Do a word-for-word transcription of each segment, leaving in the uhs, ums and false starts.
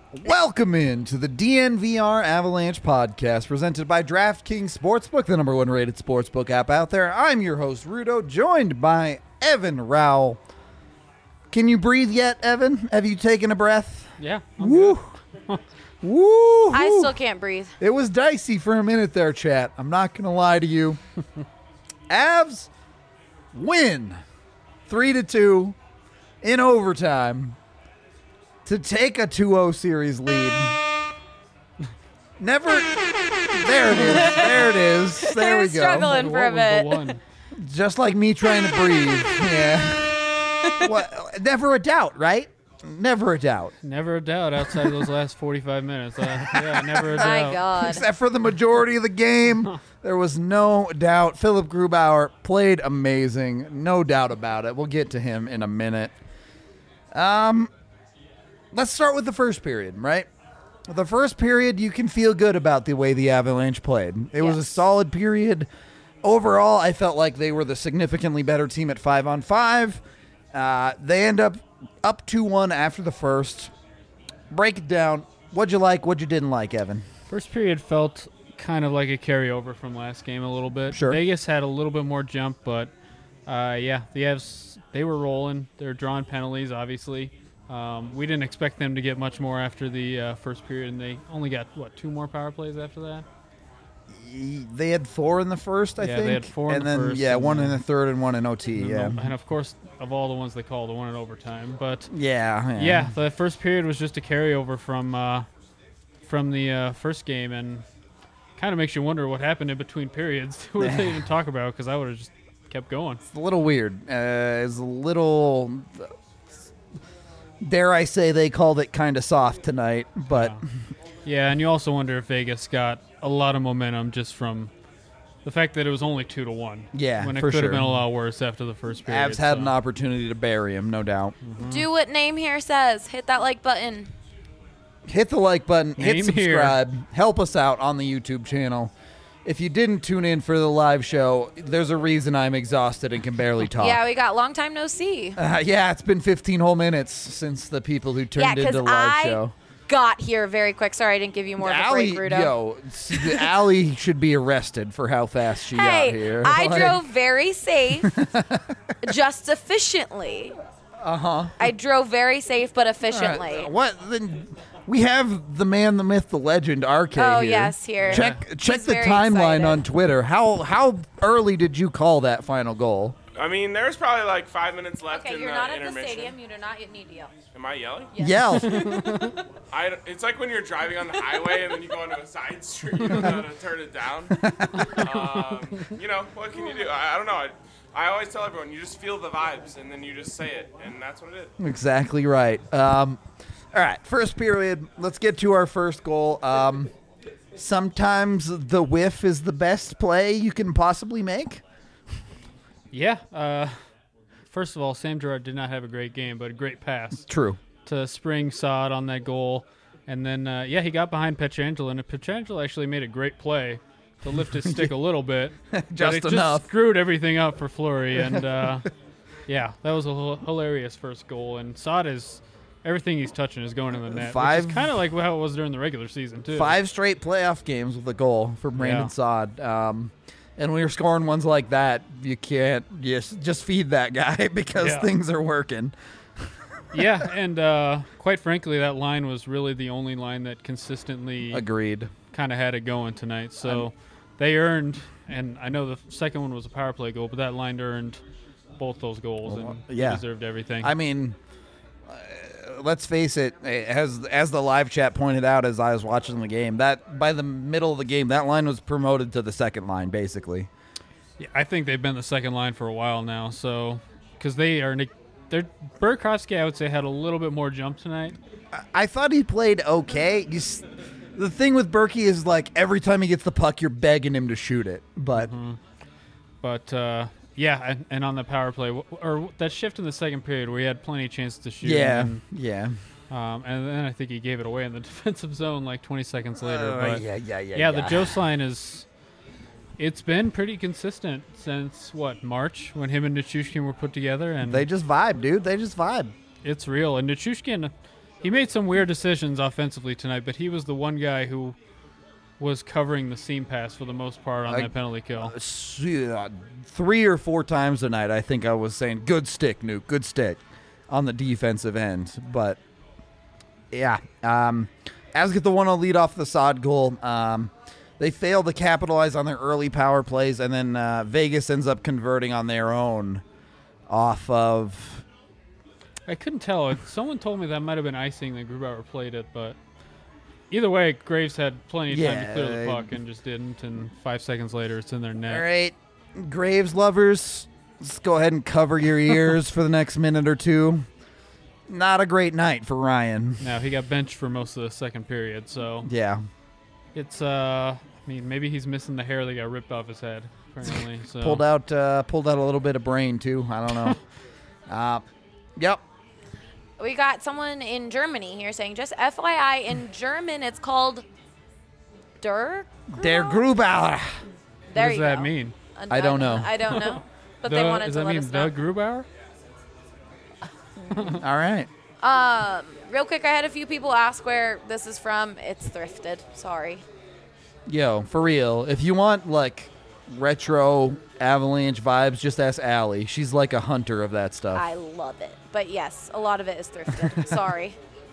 Welcome in to the D N V R Avalanche podcast presented by DraftKings Sportsbook, the number one rated sportsbook app out there. I'm your host, Rudo, joined by Evan Rowell. Can you breathe yet, Evan? Have you taken a breath? Yeah. I'm Woo. Woo. I still can't breathe. It was dicey for a minute there, chat. I'm not going to lie to you. Avs win three to two in overtime to take a two oh series lead. Never. There it is. There it is. There I we was go. struggling for a What was the bit. one? Just like me trying to breathe. Yeah. What? Never a doubt, right? Never a doubt. Never a doubt outside of those last forty-five minutes. Uh, yeah, never a doubt. My God. Except for the majority of the game, there was no doubt. Philip Grubauer played amazing. No doubt about it. We'll get to him in a minute. Um, let's start with the first period, right? The first period, you can feel good about the way the Avalanche played. It was a Yes. solid period. Overall, I felt like they were the significantly better team at five on five. Uh, they end up up two one after the first. Break it down. What'd you like? What'd you didn't like, Evan? First period felt kind of like a carryover from last game a little bit. Sure. Vegas had a little bit more jump, but uh, yeah, the Avs, they were rolling. They were drawing penalties, obviously. Um, we didn't expect them to get much more after the uh, first period, and they only got, what, two more power plays after that? They had four in the first, I Yeah, think. they had four in and the then, first, yeah, and one in then- the third and one in O T, And, yeah. then the- and of course, of all the ones they called, the one in overtime. But Yeah, yeah. yeah, the first period was just a carryover from uh, from the uh, first game, and kind of makes you wonder what happened in between periods. Who did they even talk about? Because I would have just kept going. It's a little weird. Uh, it's a little, dare I say, they called it kind of soft tonight, but Yeah. Yeah, and you also wonder if Vegas got a lot of momentum just from the fact that it was only two to one. Yeah, when it for could sure. have been a lot worse after the first period. Avs had so. an opportunity to bury him, no doubt. Do what name here says. Hit that like button. Hit the like button, hit Name subscribe, help us out on the YouTube channel. If you didn't tune in for the live show, there's a reason I'm exhausted and can barely talk. Yeah, we got long time no see. Uh, yeah, it's been fifteen whole minutes since the people who Yeah, turned because into the live I show. got here very quick. Sorry, I didn't give you more of a Allie, break, Rudo. yo, s- the Allie should be arrested for how fast she Hey, got here. I Like, drove very safe, just efficiently. Uh huh. I drove very safe but All right, efficiently. What? Then we have the man, the myth, the legend, R K. Oh, here. yes, here. Check check He's the very timeline excited. on Twitter. How how early did you call that final goal? I mean, there's probably like five minutes left Okay, in you're the not at the intermission. stadium. You do not need to yell. Am I yelling? Yes. Yell. I, it's like when you're driving on the highway and then you go into a side street, you don't know how to turn it down. um, you know, what can you do? I, I don't know. I, I always tell everyone, you just feel the vibes and then you just say it, and that's what it is. Exactly right. Um, all right, first period. Let's get to our first goal. Um, sometimes the whiff is the best play you can possibly make. Yeah. Uh, first of all, Sam Girard did not have a great game, but a great pass True. to Spring Sod on that goal. And then, uh, yeah, he got behind Pietrangelo, and Pietrangelo actually made a great play to lift his stick a little bit. Just but it enough. Just screwed everything up for Fleury. And, uh, yeah, that was a h- hilarious first goal. And Sod is – everything he's touching is going in the net, Five- which is kind of like how it was during the regular season, too. Five straight playoff games with a goal for Brandon Yeah. Saad. Um, and when you're scoring ones like that, you can't just just feed that guy because Yeah. things are working. Yeah, and uh, quite frankly, that line was really the only line that consistently Agreed. kind of had it going tonight. So they earned, and I know the second one was a power play goal, but that line earned both those goals and yeah. they deserved everything. I mean, uh, let's face it. As as the live chat pointed out, as I was watching the game, that by the middle of the game, that line was promoted to the second line, basically. yeah, I think they've been the second line for a while now. So because they are, they're Burakovsky, I would say, had a little bit more jump tonight. I thought he played okay. You s- the thing with Berkey is like every time he gets the puck, you're begging him to shoot it, but. But uh, yeah, and, and on the power play, w- or that shift in the second period where he had plenty of chances to shoot. Yeah, And, yeah. um, and then I think he gave it away in the defensive zone like twenty seconds later. Uh, but yeah, yeah, yeah, yeah, the yeah. Jost line is. It's been pretty consistent since what March when him and Nichushkin were put together, and They just vibe, dude. They just vibe. it's real. And Nichushkin, he made some weird decisions offensively tonight, but he was the one guy who was covering the seam pass for the most part on I- that penalty kill. S- uh, Three or four times tonight, I think I was saying, good stick, Nuke, good stick on the defensive end. But, yeah, um, Avs get the one oh lead off the Sod goal. Um, they fail to capitalize on their early power plays, and then uh, Vegas ends up converting on their own off of... I couldn't tell. Someone told me that might have been icing that Grubauer played it, but either way, Graves had plenty of time Yeah, to clear the I- puck and just didn't, and five seconds later it's in their net. All right, Graves lovers, let's go ahead and cover your ears for the next minute or two. Not a great night for Ryan. Now, he got benched for most of the second period, so Yeah. it's, uh, I mean, maybe he's missing the hair that got ripped off his head, apparently. So. Pulled out uh, pulled out a little bit of brain, too. I don't know. uh, yep. We got someone in Germany here saying, just F Y I, in German it's called Der. Der Grubauer. There What does you that go. mean? Uh, I don't know. I don't know. But The- they wanted does to that let mean us know. the Grubauer? All right. Um, real quick, I had a few people ask where this is from. It's thrifted. Sorry. Yo, for real, if you want, like, retro Avalanche vibes, just ask Allie. She's like a hunter of that stuff. I love it. But yes, a lot of it is thrifted. Sorry.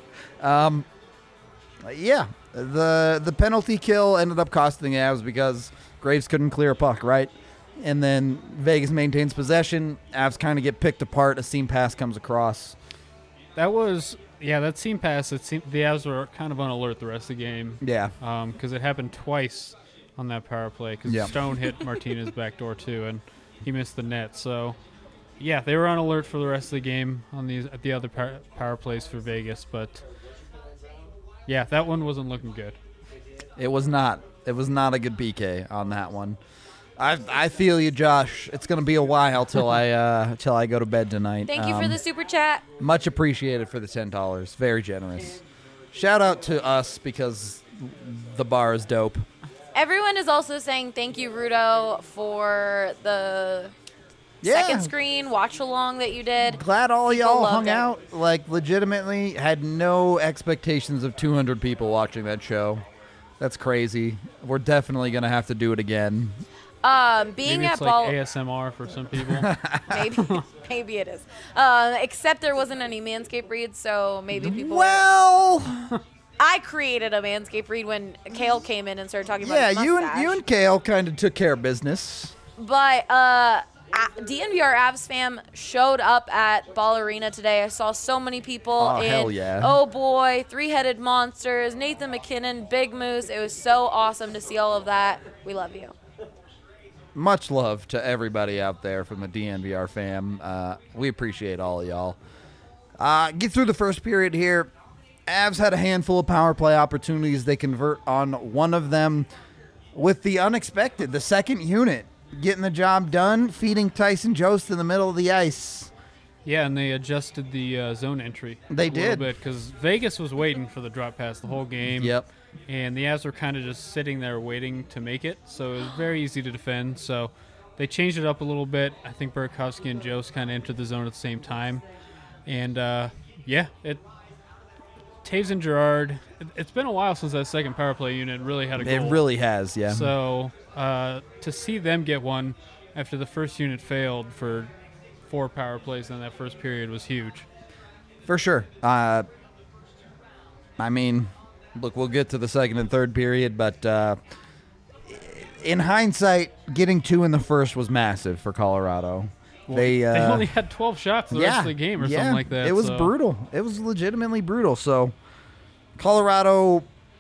Yeah, the the penalty kill ended up costing the Avs because Graves couldn't clear a puck, right? And then Vegas maintains possession. Avs kind of get picked apart. A seam pass comes across. That was, yeah, that seam pass, it seemed the Avs were kind of on alert the rest of the game. Yeah. Because it happened twice on that power play. Because Yeah. Stone hit Martinez back door too, and he missed the net. So, yeah, they were on alert for the rest of the game on these at the other power, power plays for Vegas. But yeah, that one wasn't looking good. It was not. It was not a good P K on that one. I I feel you, Josh. It's gonna be a while till I uh till I go to bed tonight. Thank you for Um, the super chat. Much appreciated for the ten dollars. Very generous. Shout out to us because the bar is dope. Everyone is also saying thank you, Rudo, for the Yeah. second screen watch along that you did. Glad all People y'all loved hung it. out. Like, legitimately had no expectations of two hundred people watching that show. That's crazy. We're definitely going to have to do it again. Um, being Maybe at it's ball, like A S M R for some people. maybe, maybe it is. Uh, except there wasn't any Manscaped reads, so maybe people. Well, I created a Manscaped read when Kale came in and started talking about yeah, his you and mustache. you and Kale kind of took care of business. But uh, a- D N V R Avs fam showed up at Ball Arena today. I saw so many people. Oh, in, hell yeah. Oh boy, Three-Headed Monsters, Nathan McKinnon, Big Moose. It was so awesome to see all of that. We love you. Much love to everybody out there from the D N V R fam. Uh, we appreciate all of y'all. Uh, get through the first period here. Avs had a handful of power play opportunities. They convert on one of them with the unexpected. The second unit getting the job done, feeding Tyson Jost in the middle of the ice. Yeah, and they adjusted the uh, zone entry. They a did. little bit because Vegas was waiting for the drop pass the whole game. Yep. And the Avs were kind of just sitting there waiting to make it, so it was very easy to defend. So they changed it up a little bit. I think Burakovsky and Jost kind of entered the zone at the same time, and uh, yeah, it. Taves and Gerard. It, it's been a while since that second power play unit really had a goal. It really has, yeah. So uh, to see them get one after the first unit failed for four power plays in that first period was huge. For sure. Uh, I mean, look, we'll get to the second and third period, but uh, in hindsight, getting two in the first was massive for Colorado. Well, they, uh, they only had twelve shots the yeah, rest of the game or yeah, something like that. It was so. brutal. It was legitimately brutal. So, Colorado,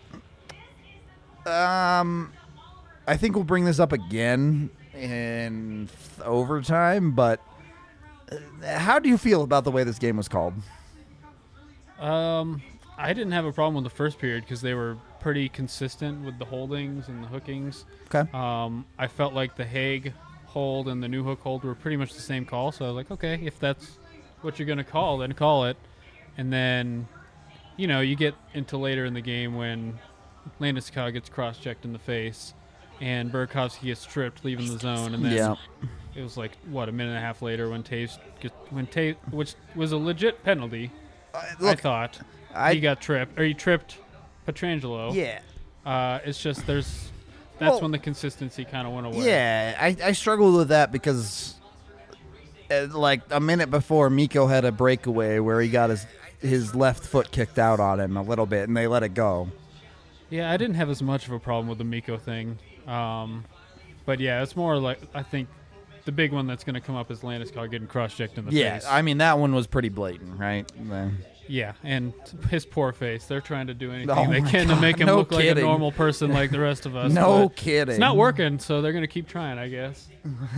um, I think we'll bring this up again in overtime, but uh, how do you feel about the way this game was called? Um, I didn't have a problem with the first period because they were pretty consistent with the holdings and the hookings. Okay. Um, I felt like the Hague hold and the New Hook hold were pretty much the same call, so I was like, okay, if that's what you're going to call, then call it. And then, you know, you get into later in the game when Landeskog gets cross-checked in the face and Burakovsky gets stripped, leaving the zone, and then Yeah. it was like, what, a minute and a half later when Taves, get, when Taves, which was a legit penalty. I look, thought I- he got tripped, or he tripped Petrangelo. yeah. Uh, it's just there's that's Well, when the consistency kind of went away. Yeah, I, I struggled with that because, uh, like, a minute before, Miko had a breakaway where he got his his left foot kicked out on him a little bit, and they let it go. Yeah, I didn't have as much of a problem with the Miko thing. Um, but yeah, it's more like I think the big one that's going to come up is Landeskog getting cross-checked in the Yeah, face. I mean, that one was pretty blatant, right? The- Yeah, and his poor face. They're trying to do anything Oh they my can to God, make him no look like kidding. a normal person like the rest of us. No but kidding. It's not working, so they're going to keep trying, I guess.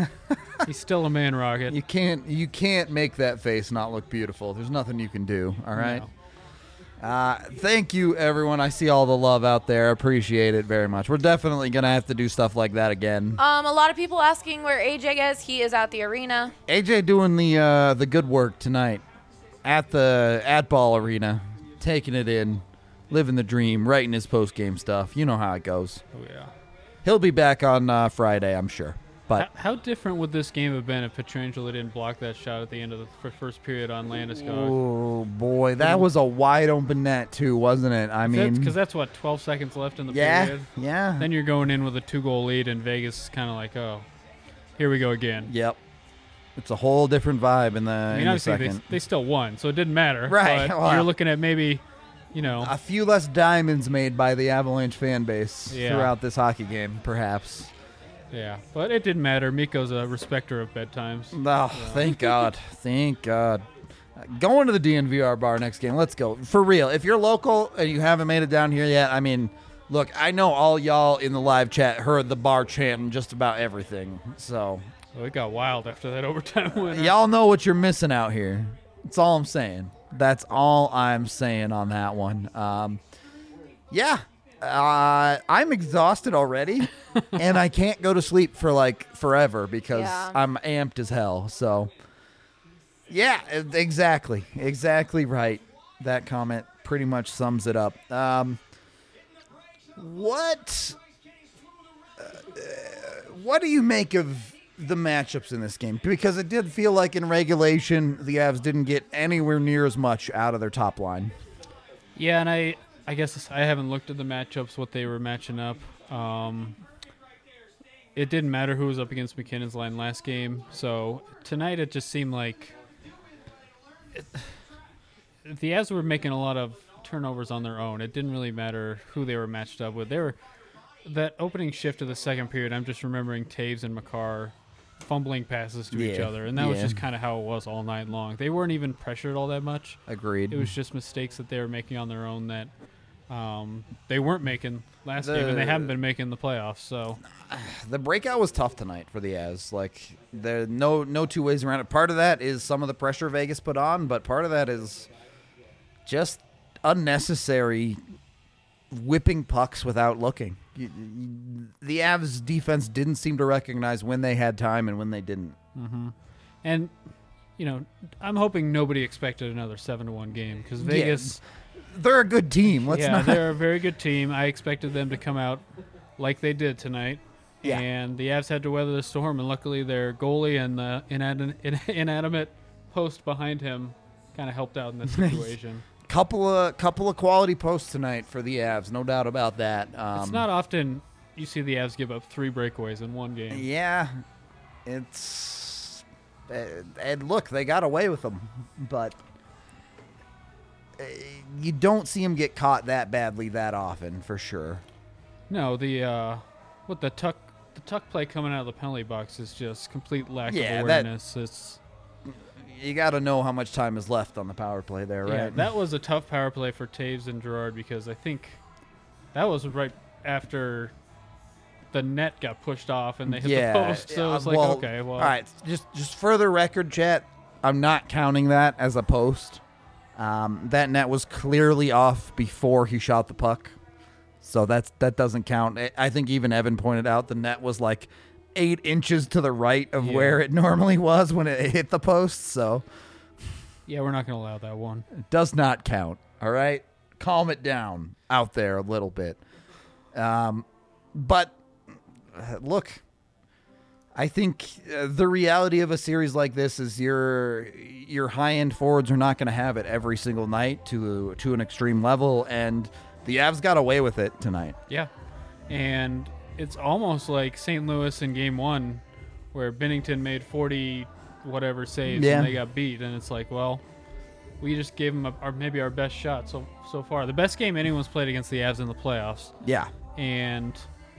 He's still a man rocket. You can't you can't make that face not look beautiful. There's nothing you can do, all right? No. Uh, thank you, everyone. I see all the love out there. Appreciate it very much. We're definitely going to have to do stuff like that again. Um, a lot of people asking where A J is. He is at the arena. A J doing the uh, the good work tonight at the at Ball Arena, taking it in, living the dream, writing his post game stuff. You know how it goes. Oh, yeah. He'll be back on uh, Friday, I'm sure. But How, how different would this game have been if Petrangelo didn't block that shot at the end of the f- first period on Landeskog? oh boy, that was a wide open net too, wasn't it? I mean, Because that's, what, twelve seconds left in the yeah, period? yeah. Then you're going in with a two-goal lead, and Vegas is kind of like, oh, here we go again. Yep. It's a whole different vibe in the, I mean, in the obviously, they, second. they still won, so it didn't matter. Right, But well- you're looking at maybe, you know, A few less diamonds made by the Avalanche fan base Yeah. throughout this hockey game, perhaps. yeah. But it didn't matter. Miko's a respecter of bedtimes. Oh, thank God. Thank God. Uh, Going to the D N V R bar next game. Let's go. For real. If you're local and you haven't made it down here yet, I mean, look, I know all y'all in the live chat heard the bar chanting just about everything. So, Well, it got wild after that overtime winner. y'all know what you're missing out here. That's all I'm saying. That's all I'm saying on that one. Um, yeah. Uh, I'm exhausted already, and I can't go to sleep for like forever because Yeah. I'm amped as hell. So, yeah, e- exactly, exactly right. That comment pretty much sums it up. Um, what, uh, what do you make of the matchups in this game? Because it did feel like in regulation the Avs didn't get anywhere near as much out of their top line. Yeah, and I, I guess I haven't looked at the matchups, what they were matching up. Um, it didn't matter who was up against McKinnon's line last game. So tonight it just seemed like it, the Avs were making a lot of turnovers on their own. It didn't really matter who they were matched up with. They were that opening shift of the second period. I'm just remembering Taves and Makar fumbling passes to each Yeah, other, and that was yeah. just kind of how it was all night long. They weren't even pressured all that much. Agreed. It was just mistakes that they were making on their own that um, they weren't making last game, and they The- haven't been making the playoffs. So The breakout was tough tonight for the Avs. Like there, no, no two ways around it. Part of that is some of the pressure Vegas put on, but part of that is just unnecessary whipping pucks without looking. You- you- The Avs defense didn't seem to recognize when they had time and when they didn't. and you know, I'm hoping nobody expected another seven to one game because Vegas, They're a good team. Let's yeah, not. they're a very good team. I expected them to come out like they did tonight. Yeah. And the Avs had to weather the storm, and luckily their goalie and the inad- in- inanimate post behind him kind of helped out in this situation. couple of couple of quality posts tonight for the Avs, no doubt about that. Um, It's not often you see the Avs give up three breakaways in one game. Yeah, it's uh, and look, they got away with them, but uh, you don't see them get caught that badly that often, for sure. No, the uh, what the tuck the tuck play coming out of the penalty box is just complete lack Yeah, of that- awareness. It's You got to know how much time is left on the power play there, right? yeah, that was a tough power play for Taves and Gerard because I think that was right after the net got pushed off and they hit yeah, the post. So uh, it was like, well, okay, well, all right. Just just for the record, chat, I'm not counting that as a post. Um, that net was clearly off before he shot the puck, so that's that doesn't count. I- I think even Evan pointed out the net was like eight inches to the right of Yeah. where it normally was when it hit the post, so yeah, we're not going to allow that one. it does not count. All right, calm it down out there a little bit. Um, but uh, look, I think uh, the reality of a series like this is your your high end forwards are not going to have it every single night to to an extreme level, and the Avs got away with it tonight. Yeah, and it's almost like Saint Louis in Game One, where Binnington made forty whatever saves Yeah. and they got beat, and it's like, well, we just gave them a, our, maybe our best shot so so far, the best game anyone's played against the Avs in the playoffs, Yeah, and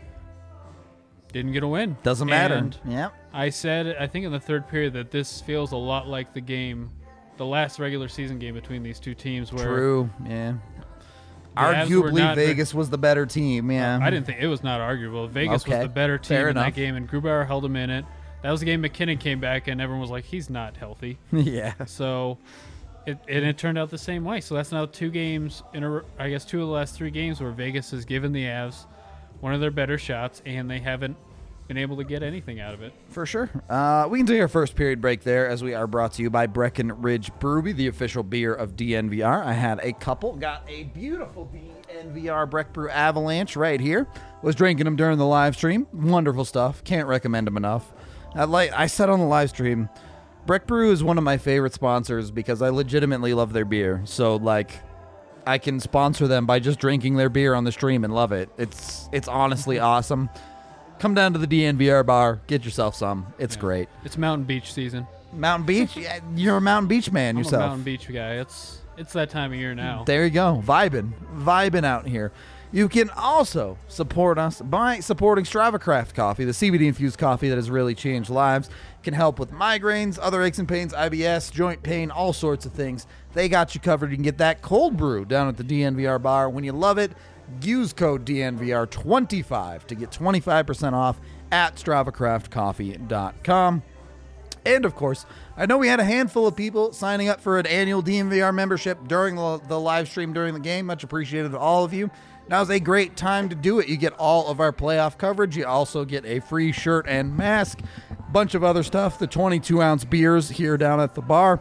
didn't get a win. doesn't matter. And Yeah, I said, I think in the third period, that this feels a lot like the game, the last regular season game between these two teams, where true. Yeah, the Avs were arguably not very- Vegas was the better team. Yeah, I didn't think it was not arguable. Vegas Okay, was the better team fair in enough. that game, and Grubauer held him in it. That was the game McKinnon came back, and everyone was like, he's not healthy. yeah. So, it and it turned out the same way. So that's now two games in a, r- I guess two of the last three games where Vegas has given the Avs one of their better shots, and they haven't been able to get anything out of it. For sure. Uh, we can take our first period break there, as we are brought to you by Breckenridge Brewery, the official beer of D N V R. I had a couple, got a beautiful D N V R Breck Brew Avalanche right here. Was drinking them during the live stream. Wonderful stuff. Can't recommend them enough. I like. I said on the live stream, Breck Brew is one of my favorite sponsors because I legitimately love their beer. So like, I can sponsor them by just drinking their beer on the stream and love it. It's it's honestly awesome. Come down to the D N V R bar, get yourself some. It's Yeah. great. It's Mountain Beach season. Mountain Beach, Yeah, you're a Mountain Beach man I'm yourself. a Mountain Beach guy. It's it's that time of year now. There you go, vibing, vibing out here. You can also support us by supporting Strava Craft Coffee, the C B D infused coffee that has really changed lives. It can help with migraines, other aches and pains, I B S, joint pain, all sorts of things. They got you covered. You can get that cold brew down at the D N V R bar. When you love it, use code D N V R twenty-five to get twenty-five percent off at strava craft coffee dot com. And, of course, I know we had a handful of people signing up for an annual D N V R membership during the, the live stream during the game. Much appreciated to all of you. Now's a great time to do it. You get all of our playoff coverage. You also get a free shirt and mask, bunch of other stuff, the twenty-two ounce beers here down at the bar.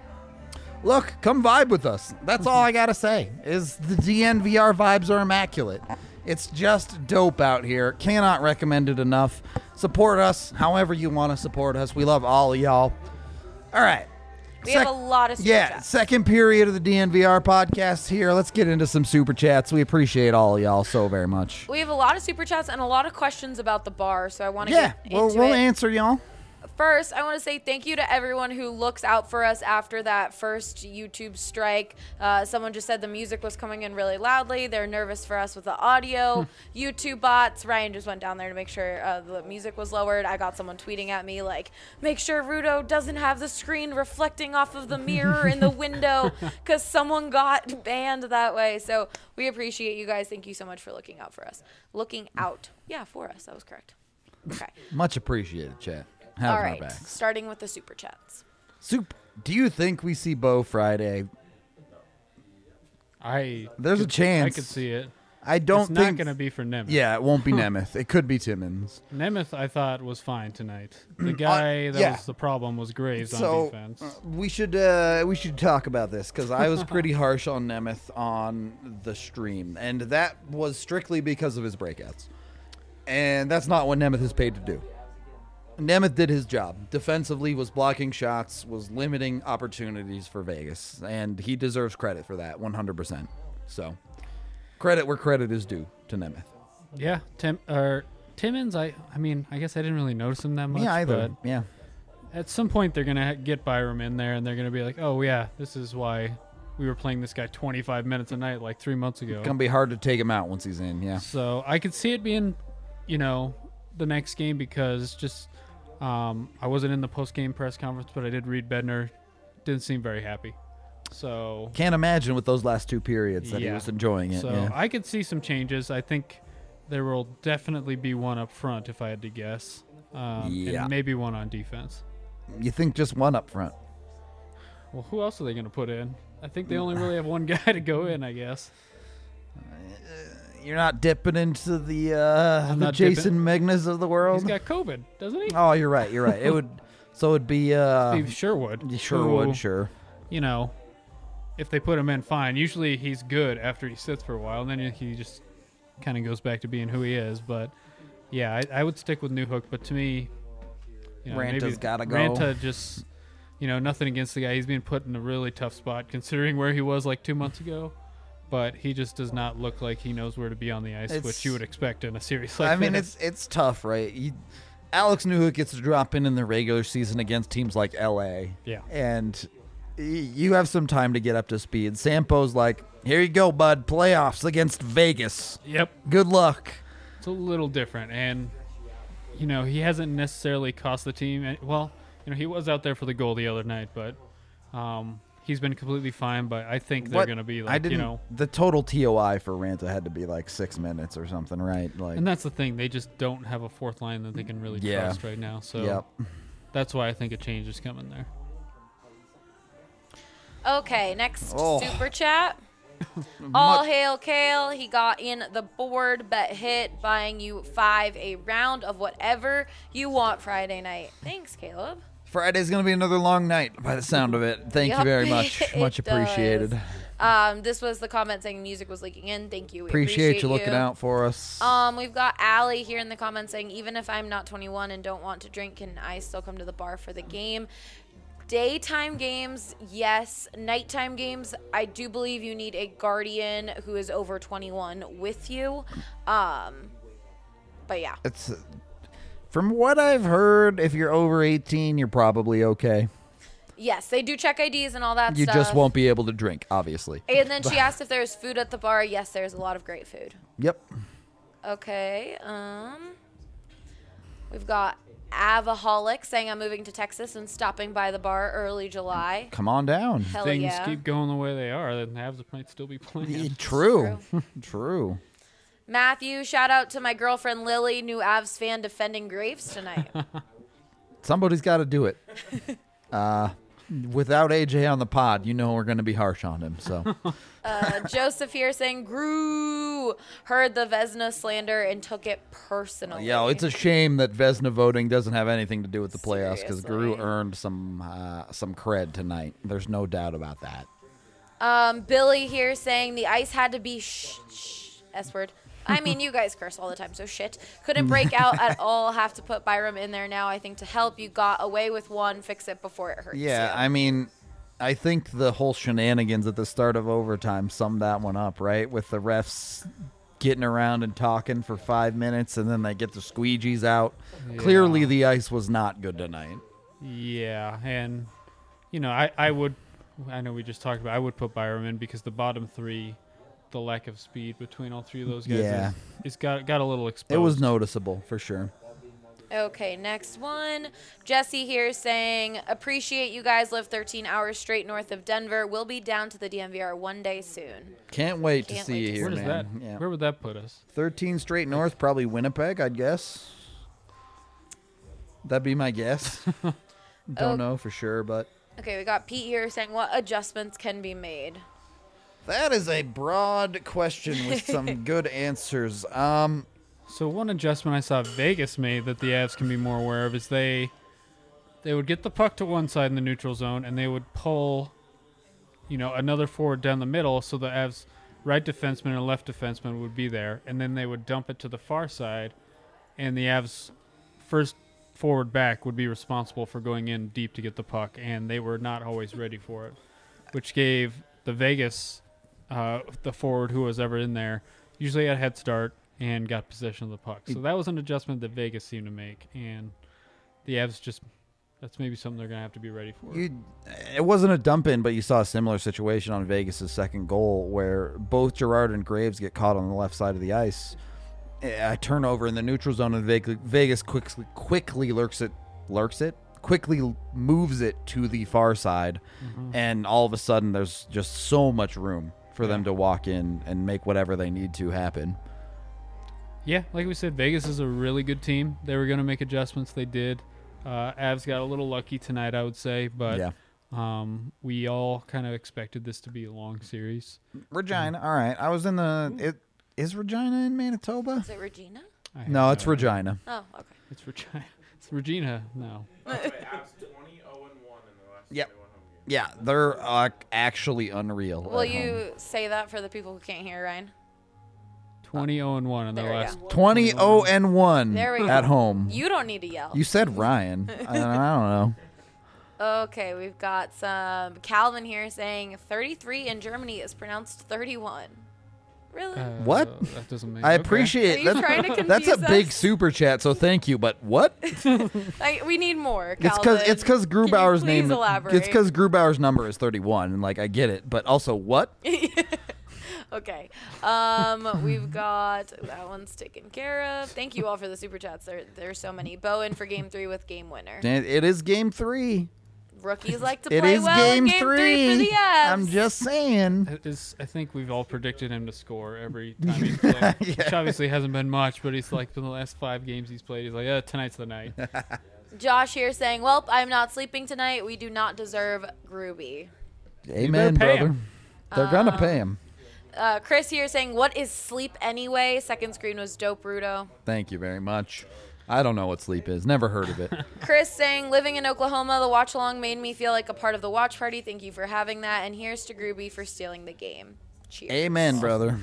Look, come vibe with us. That's all I got to say, is the D N V R vibes are immaculate. It's just dope out here. Cannot recommend it enough. Support us however you want to support us. We love all of y'all. All right. We Sec- have a lot of super Yeah, chats. second period of the D N V R podcast here. Let's get into some super chats. We appreciate all of y'all so very much. We have a lot of super chats and a lot of questions about the bar, so I want to Yeah, get we'll, into we'll it. answer y'all. First, I want to say thank you to everyone who looks out for us after that first YouTube strike. Uh, someone just said the music was coming in really loudly. They're nervous for us with the audio. YouTube bots. Ryan just went down there to make sure uh, the music was lowered. I got someone tweeting at me like, make sure Rudo doesn't have the screen reflecting off of the mirror in the window because someone got banned that way. So we appreciate you guys. Thank you so much for looking out for us. Looking out. Yeah, for us. That was correct. Okay. Much appreciated, chat. Having All our right. backs. Starting with the super chats. Soup, do you think we see Bo Friday? I There's a could- chance. I could see it. I don't it's think. not going to be for Nemeth. Yeah, it won't be Nemeth. It could be Timmins. Nemeth, I thought, was fine tonight. The guy that yeah. was the problem was Graves So on defense. uh, we should uh, we should talk about this because I was pretty harsh on Nemeth on the stream, and that was strictly because of his breakouts, and that's not what Nemeth is paid to do. Nemeth did his job defensively, was blocking shots, was limiting opportunities for Vegas, and he deserves credit for that one hundred percent. So credit where credit is due to Nemeth. Yeah, Tim or Timmins. I, I mean, I guess I didn't really notice him that much. Yeah, either. But Yeah. at some point, they're gonna get Byram in there, and they're gonna be like, "Oh yeah, this is why we were playing this guy twenty-five minutes a night like three months ago." It's gonna be hard to take him out once he's in. Yeah. So I could see it being, you know, the next game because just um, I wasn't in the post-game press conference, but I did read Bednar. Didn't seem very happy. So Can't imagine with those last two periods that he Yeah. was enjoying it. So yeah. I could see some changes. I think there will definitely be one up front, if I had to guess. Um, Yeah. And maybe one on defense. You think just one up front? Well, who else are they going to put in? I think they only really have one guy to go in, I guess. You're not dipping into the uh, I'm the not Jason Megnas of the world. He's got COVID, doesn't he? Oh, you're right. You're right. It would. So it'd be. Uh, Steve Sherwood. you sure who, would. Sure. You know, if they put him in, fine. Usually he's good after he sits for a while, and then he just kind of goes back to being who he is. But yeah, I, I would stick with Newhook. But to me, You know, Ranta's maybe gotta go. Ranta just, you know, nothing against the guy. He's being put in a really tough spot considering where he was like two months ago. But he just does not look like he knows where to be on the ice, It's- which you would expect in a series like I mean, this. it's it's tough, right? You, Alex Newhook gets to drop in in the regular season against teams like L A. Yeah. And y- you have some time to get up to speed. Sampo's like, here you go, bud. Playoffs against Vegas. Yep. Good luck. It's a little different, and you know he hasn't necessarily cost the team. any- Well, you know he was out there for the goal the other night, but um, he's been completely fine. But I think they're What- going to be I like, didn't, you know, the total T O I for Ranta had to be like six minutes or something, right? Like, and that's the thing. They just don't have a fourth line that they can really Yeah. trust right now. So yep. that's why I think a change is coming there. Okay, next Oh. super chat. All hail Kale. He got in the board bet hit, buying you five a round of whatever you want Friday night. Thanks, Caleb. Friday's gonna be another long night by the sound of it. Thank Yup, you very much. it Much appreciated. does. Um, this was the comment saying music was leaking in. Thank you. We Appreciate, appreciate you looking out for us. Um, we've got Allie here in the comments saying, even if I'm not twenty-one and don't want to drink, can I still come to the bar for the game? Daytime games, yes. Nighttime games, I do believe you need a guardian who is over twenty-one with you. Um, but yeah. It's from what I've heard, if you're over eighteen, you're probably okay. Yes, they do check I Ds and all that You stuff. just won't be able to drink, obviously. And then she asked if there's food at the bar. Yes, there's a lot of great food. Yep. Okay. Um, we've got Avaholic saying I'm moving to Texas and stopping by the bar early July. Come on down. Hell Things yeah. keep going the way they are, then the Habs might still be playing. True. True. Matthew, shout out to my girlfriend Lily, new Avs fan defending Graves tonight. Somebody's got to do it. Uh, without A J on the pod, you know we're going to be harsh on him. So uh, Joseph here saying Grew heard the Vesna slander and took it personally. yeah, it's a shame that Vesna voting doesn't have anything to do with the playoffs because Gru Seriously. earned some uh, some cred tonight. There's no doubt about that. Um, Billy here saying the ice had to be shh, shh, S word. I mean, you guys curse all the time, so shit. Couldn't break out at all. Have to put Byram in there now, I think, to help. You got away with one. Fix it before it hurts Yeah, you. I mean, I think the whole shenanigans at the start of overtime summed that one up, right? With the refs getting around and talking for five minutes, and then they get the squeegees out. Clearly, Yeah. the ice was not good tonight. Yeah, and you know, I, I would, I know we just talked about, I would put Byram in because the bottom three, the lack of speed between all three of those guys, Yeah. is, is got got a little exposed. It was noticeable for sure. Okay, next one. Jesse here saying, appreciate you guys live thirteen hours straight north of Denver. We'll be down to the D M V R one day soon. Can't wait to Can't see wait you to here, Where does man. that? Yeah. Where would that put us? thirteen straight north, probably Winnipeg, I'd guess. That'd be my guess. Don't Oh. know for sure, but Okay, we got Pete here saying, what adjustments can be made? that is a broad question with some good answers. Um, So one adjustment I saw Vegas made that the Avs can be more aware of is they they would get the puck to one side in the neutral zone and they would pull, you know, another forward down the middle so the Avs right defenseman and left defenseman would be there, and then they would dump it to the far side, and the Avs first forward back would be responsible for going in deep to get the puck, and they were not always ready for it, which gave the Vegas uh, the forward who was ever in there usually had a head start and got possession of the puck. So that was an adjustment that Vegas seemed to make, and the Avs just that's maybe something they're gonna have to be ready for. you, it wasn't a dump in, but you saw a similar situation on Vegas' second goal where both Gerard and Graves get caught on the left side of the ice. A turnover in the neutral zone, and Vegas, Vegas quickly quickly lurks it, lurks it, quickly moves it to the far side, and all of a sudden there's just so much room for them to walk in and make whatever they need to happen. Yeah, like we said, Vegas is a really good team. They were gonna make adjustments. They did. Uh, Avs got a little lucky tonight, I would say, but Yeah. um, we all kind of expected this to be a long series. Regina, all right. I was in the. It is Regina in Manitoba? Is it Regina? I have No, it's idea. Regina. Oh, okay. It's Regina. It's Regina. No. The Avs twenty oh and one in the last Yep. twenty-one home games. Yeah, they're uh, actually unreal. Will at home. you say that for the people who can't hear, Ryan? twenty oh and one in their There we last. go. twenty oh and one There we go. at home. You don't need to yell. You said Ryan. I, I don't know. Okay, we've got some Calvin here saying thirty-three in Germany is pronounced thirty-one. Really? Uh, What? That doesn't make. I okay. appreciate Are you that's, trying to that's a confuse big us? super chat, so thank you. But what? I, we need more. It's Calvin. because it's because Can you Grubauer's please name. Elaborate? It's because Grubauer's number is thirty-one, and like I get it, but also what? Okay. Um, we've got that one's taken care of. Thank you all for the super chats. There, there's so many. Bowen for game three with game winner. It it is game three. Rookies like to It play is well game in game three. three for the Avs. I'm just saying. It is, I think we've all predicted him to score every time he's played, Yeah. which obviously hasn't been much, but he's like in the last five games he's played, he's like, yeah, tonight's the night. Josh here saying, "Well, I'm not sleeping tonight. We do not deserve Groovy." Amen, pay brother. him. They're gonna pay him. Uh, Chris here saying, "What is sleep anyway?" Second screen was dope, Rudo. Thank you very much. I don't know what sleep is. Never heard of it. Chris saying, "Living in Oklahoma, the watch along made me feel like a part of the watch party. Thank you for having that. And here's to Groovy for stealing the game. Cheers." Amen, brother.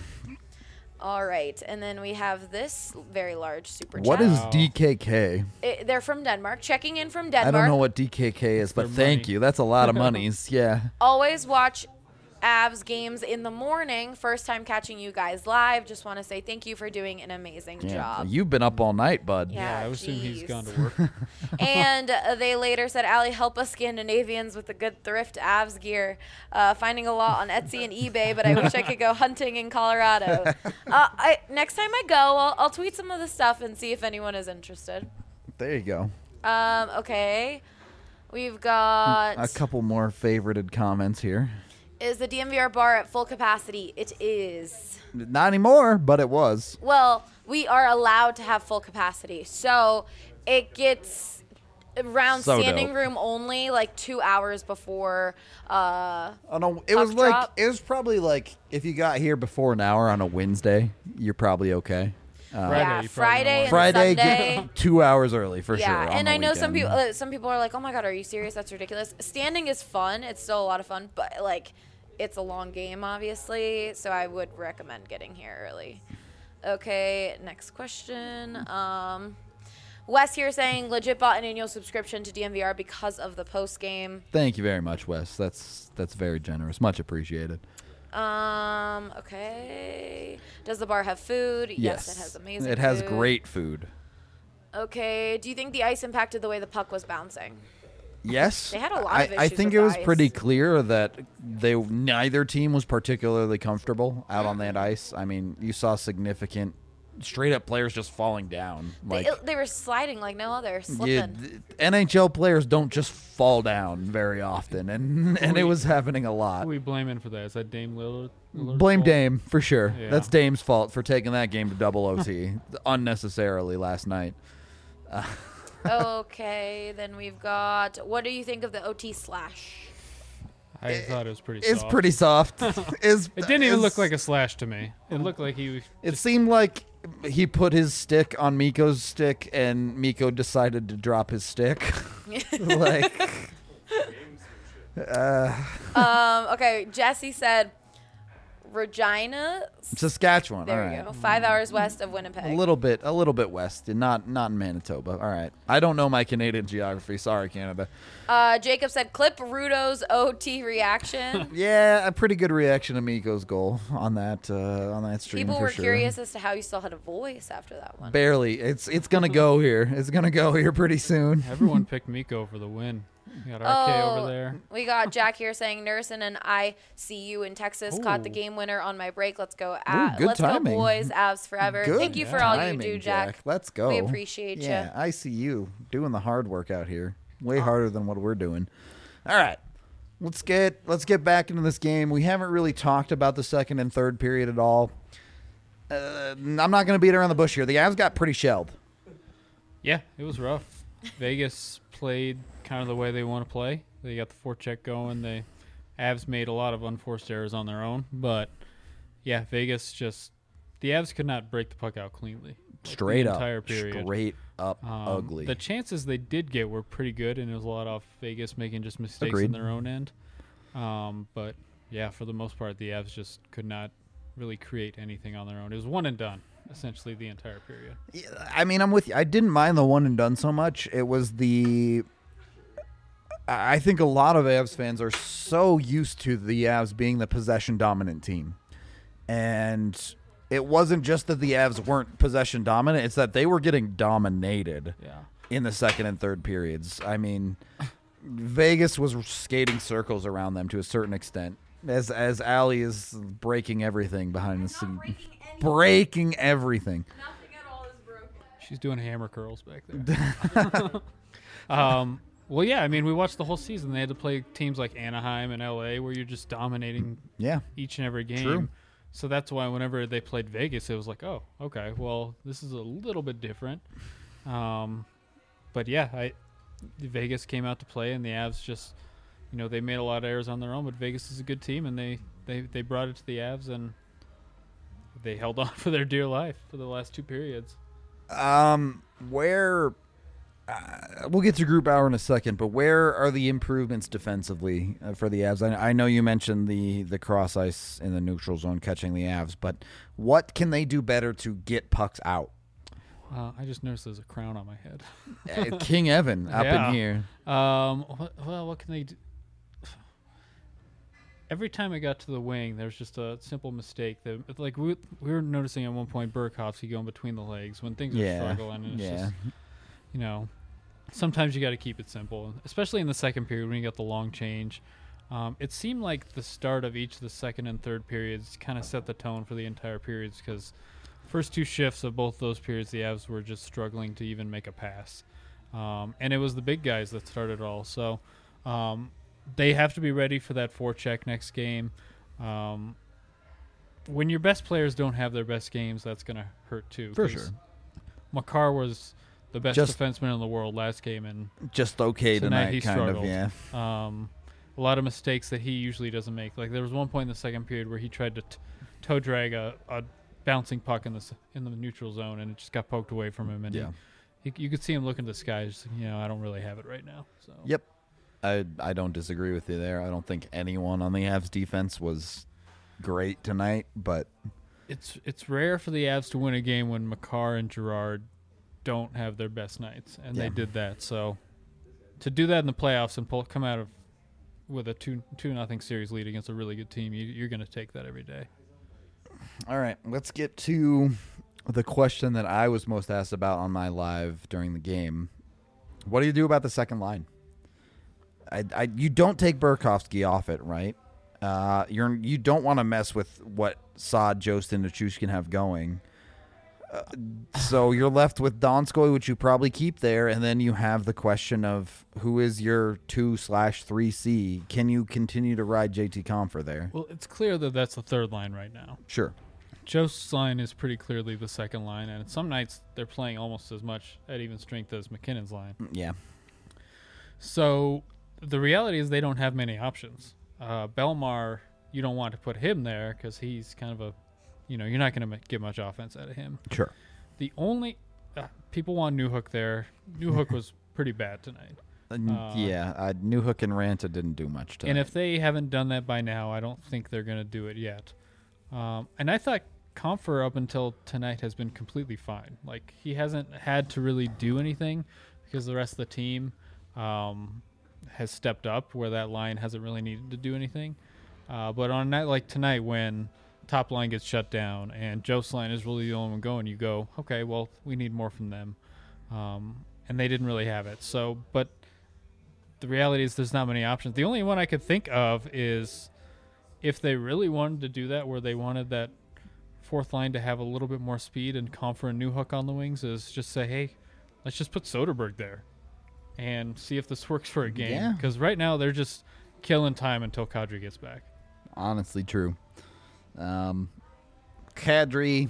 All right, and then we have this very large super chat. What is Wow. D K K? It, they're from Denmark. Checking in from Denmark. I don't know what D K K is, but their thank money. you. That's a lot of monies. Yeah. Always watch Avs games in the morning. First time catching you guys live. Just want to say thank you for doing an amazing Yeah. job. You've been up all night, bud. Yeah. I would assume he's jeez. gone to work. And uh, they later said, "Allie, help us Scandinavians with the good thrift Avs gear. Uh, finding a lot on Etsy and eBay, but I wish I could go hunting in Colorado. Uh, I, next time I go, I'll, I'll tweet some of the stuff and see if anyone is interested." There you go. Um, okay. We've got... A couple more favorited comments here. Is the D M V R bar at full capacity? It is. Not anymore, but it was. Well, we are allowed to have full capacity. So it gets around So standing dope. room only like two hours before. Uh, Oh no, it was Puck like drop. it was probably like if you got here before an hour on a Wednesday, you're probably okay. Uh, Friday, yeah, you probably Friday don't and Friday, Sunday. get two hours early for yeah, sure. on and the I know some weekend. people. Uh, some people are like, "Oh my god, are you serious? That's ridiculous." Standing is fun. It's still a lot of fun, but like, it's a long game, obviously. So I would recommend getting here early. Okay, next question. Um, Wes here saying legit bought an annual subscription to D M V R because of the post game. Thank you very much, Wes. That's that's very generous. Much appreciated. Um, okay. Does the bar have food? Yes, it has amazing. It has food. great food. Okay. Do you think the ice impacted the way the puck was bouncing? Yes. They had a lot I, of I issues think with it was the ice. pretty clear that they neither team was particularly comfortable out on that ice. I mean, you saw significant straight up players just falling down. Like they, they were sliding like no other, slipping. yeah, th- N H L players don't just fall down very often, and and it was happening a lot. Who are we blaming for that? Is that Dame Lillard? Lillard's Blame fault? Dame for sure. Yeah. That's Dame's fault for taking that game to double O T unnecessarily last night. Okay, then we've got. What do you think of the O T slash? I thought it was pretty It's soft. pretty soft. It's- It didn't even it's- look like a slash to me. It looked like he was. It seemed like he put his stick on Miko's stick, and Miko decided to drop his stick. like, uh, Um. Okay, Jesse said, Regina. Saskatchewan. There all we right. go. Five hours west of Winnipeg. A little bit, a little bit west, and not not in Manitoba. All right. I don't know my Canadian geography. Sorry, Canada. Uh, Jacob said, clip Rudo's O T reaction. Yeah, a pretty good reaction to Miko's goal on that uh, on that stream. People for were sure. curious as to how you still had a voice after that one. Barely. It's it's gonna go here. It's gonna go here pretty soon. Everyone picked Miko for the win. We got R K Oh, over there. We got Jack here saying Nursen and I see you in Texas caught the Ooh. game winner on my break. Let's go, A- good let's timing. go, boys! Avs forever. Good Thank you for all you timing, do, Jack. Let's go. We appreciate you. Yeah, I see you doing the hard work out here. Way harder than what we're doing. All right. Let's get let's get back into this game. We haven't really talked about the second and third period at all. Uh, I'm not going to beat around the bush here. The Avs got pretty shelled. Yeah, it was rough. Vegas played kind of the way they want to play. They got the forecheck going. They Avs made a lot of unforced errors on their own, but yeah, Vegas just the Avs could not break the puck out cleanly. Straight the up. entire period. Straight up Um, ugly. The chances they did get were pretty good, and it was a lot off Vegas making just mistakes Agreed. in their own end. Um, but yeah, for the most part, the Avs just could not really create anything on their own. It was one and done, essentially the entire period. Yeah, I mean, I'm with you. I didn't mind the one and done so much. It was the. I think a lot of Avs fans are so used to the Avs being the possession dominant team. And it wasn't just that the Avs weren't possession dominant, it's that they were getting dominated Yeah. in the second and third periods. I mean, Vegas was skating circles around them to a certain extent. As as Allie is breaking everything behind the scene. Breaking everything. Nothing at all is broken. She's doing hammer curls back there. um, well, yeah, I mean, we watched the whole season. They had to play teams like Anaheim and L A where you're just dominating Yeah. each and every game. True. So that's why whenever they played Vegas, it was like, oh, okay, well, this is a little bit different. Um, but yeah, I Vegas came out to play, and the Avs just, you know, they made a lot of errors on their own. But Vegas is a good team, and they they, they brought it to the Avs, and they held on for their dear life for the last two periods. Um, where uh, we'll get to group hour in a second, but where are the improvements defensively uh, for the Avs? I, I know you mentioned the the cross ice in the neutral zone catching the Avs, but what can they do better to get pucks out? Uh, I just noticed there's a crown on my head. Uh, King Evan up Yeah. in here. Um, what, well, what can they do? Every time I got to the wing, there's just a simple mistake that, like, we we were noticing at one point Burakovsky going between the legs when things are Yeah, struggling. And it's yeah. just, you know, sometimes you got to keep it simple, especially in the second period when you got the long change. Um, it seemed like the start of each of the second and third periods kind of set the tone for the entire periods, because first two shifts of both those periods, the Avs were just struggling to even make a pass. Um, and it was the big guys that started it all. So um, they have to be ready for that forecheck next game. Um, when your best players don't have their best games, that's going to hurt too. For 'cause sure. Makar was the best Just- defenseman in the world last game, and Just okay Tonight tonight, he kind struggled. of, yeah. um, a lot of mistakes that he usually doesn't make. Like there was one point in the second period where he tried to t- toe drag a, a bouncing puck in the s- in the neutral zone, and it just got poked away from him. And Yeah. he, he, you could see him look into the sky, just you know, I don't really have it right now. So Yep. I I don't disagree with you there. I don't think anyone on the Avs defense was great tonight, but it's it's rare for the Avs to win a game when Makar and Gerard don't have their best nights, and Yeah. they did that. So to do that in the playoffs and pull come out of with a two two nothing series lead against a really good team, you, you're going to take that every day. all right, let's get to the question that I was most asked about on my live during the game. What do you do about the second line? I, I you don't take Burakovsky off it, right? Uh, you're you don't want to mess with what Saad, Jost, and Nichushkin have going. Uh, so you're left with Donskoy, which you probably keep there, and then you have the question of who is your two slash three C. Can you continue to ride J T Compher there? Well, it's clear that that's the third line right now. Sure. Jost's line is pretty clearly the second line, and some nights they're playing almost as much at even strength as McKinnon's line. Yeah. So the reality is they don't have many options. Uh, Belmar, you don't want to put him there because he's kind of a, you know, you're not going to get much offense out of him. Sure. The only uh, people want Newhook there. Newhook was pretty bad tonight. Uh, yeah, uh, Newhook and Ranta didn't do much tonight. And if they haven't done that by now, I don't think they're going to do it yet. Um, and I thought Compher up until tonight has been completely fine. Like, he hasn't had to really do anything because the rest of the team um, has stepped up where that line hasn't really needed to do anything. Uh, but on a night like tonight when top line gets shut down and Jost's line is really the only one going, you go, okay, well, we need more from them. Um, and they didn't really have it. So, but the reality is there's not many options. The only one I could think of is if they really wanted to do that, where they wanted that fourth line to have a little bit more speed and Compher and Newhook on the wings, is just say, hey, let's just put Soderberg there and see if this works for a game. Yeah. Because right now they're just killing time until Kadri gets back. Honestly, true. Um, Kadri,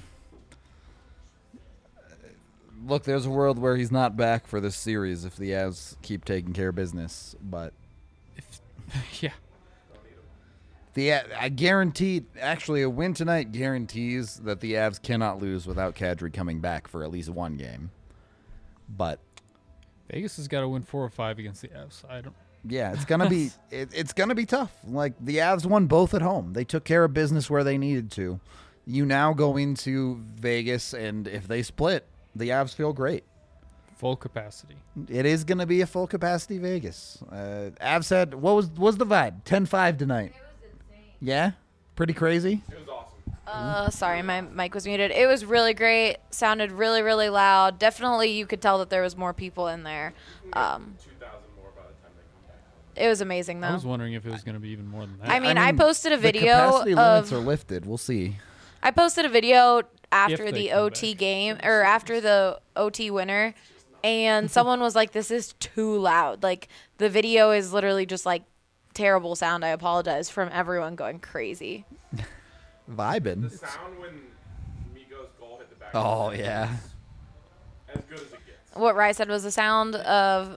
look, there's a world where he's not back for this series if the Avs keep taking care of business. But If, yeah. the I guarantee, actually, a win tonight guarantees that the Avs cannot lose without Kadri coming back for at least one game. But Vegas has got to win four or five against the Avs. I don't. yeah, it's gonna be it, it's gonna be tough. Like, the Avs won both at home. They took care of business where they needed to. you now go into Vegas, and if they split, the Avs feel great. Full capacity. It is going to be a full capacity Vegas. Uh, Avs said, what was what was the vibe? ten five tonight. It was insane. Yeah? Pretty crazy? It was awesome. Uh, sorry, my mic was muted. It was really great. Sounded really, really loud. Definitely, you could tell that there was more people in there. Um, two thousand more by the time they come back home. it was amazing, I though. was wondering if it was going to be even more than that. I mean, I posted a the video capacity limits of- are lifted. We'll see. I posted a video after If they the come O T back. game, or after the O T winner, and someone was like, "This is too loud." Like the video is literally just like terrible sound. I apologize from everyone going crazy. Vibing. The sound when Miko's goal hit the back. Oh, of the net yeah. was As good as it gets. What Rye said was the sound of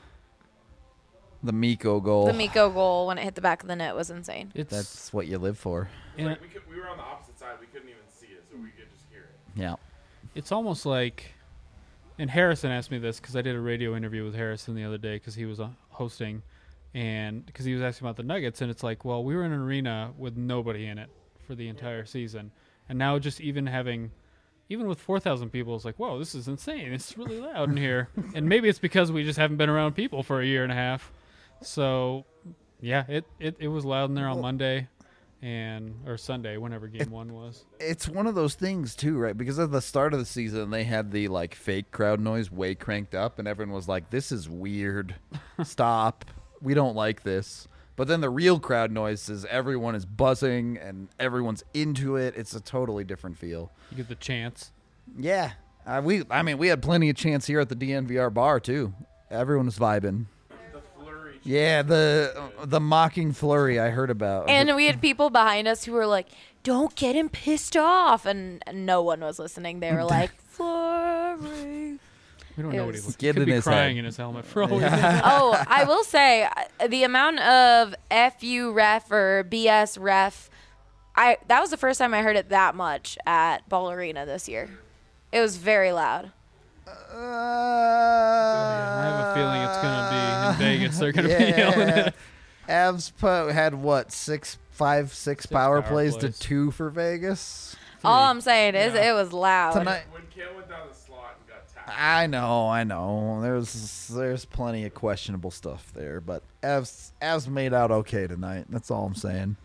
The Miko goal. the Miko goal when it hit the back of the net was insane. it's That's what you live for. and Like we, could, we were on the opposite side. We couldn't even see it, so we could just hear it. Yeah. it's almost like, and Harrison asked me this because I did a radio interview with Harrison the other day because he was uh, hosting, and because he was asking about the Nuggets, and it's like, well, we were in an arena with nobody in it for the entire season, and now just even having, even with four thousand people, it's like, whoa, this is insane. It's really loud in here, and maybe it's because we just haven't been around people for a year and a half. So, yeah, it, it, it was loud in there on Monday, and or Sunday, whenever game one was. It's one of those things too, right? Because at the start of the season, they had the like fake crowd noise way cranked up, and everyone was like, "This is weird. Stop. We don't like this." But then the real crowd noise is everyone is buzzing and everyone's into it. It's a totally different feel. You get the chance. Yeah, uh, we. I mean, we had plenty of chance here at the D N V R bar too. Everyone was vibing. The flurry. Yeah, the the mocking flurry I heard about. And we had people behind us who were like, "Don't get him pissed off," and no one was listening. They were like, "Flurry." We don't It know what he was- looks. Get Could in be his crying head. in his helmet for all we know. Oh, I will say uh, the amount of F U ref or B S ref, I that was the first time I heard it that much at Ball Arena this year. It was very loud. Uh, I have a feeling it's gonna be in Vegas. They're gonna be yelling yeah. at. Avs po- had what six, five, six, Six power, power plays, plays. to two for Vegas. All I'm saying is Yeah. it was loud. Tonight, When Kale went down the slot and got tapped. I know, I know. There's there's plenty of questionable stuff there, but Avs Avs made out okay tonight. That's all I'm saying.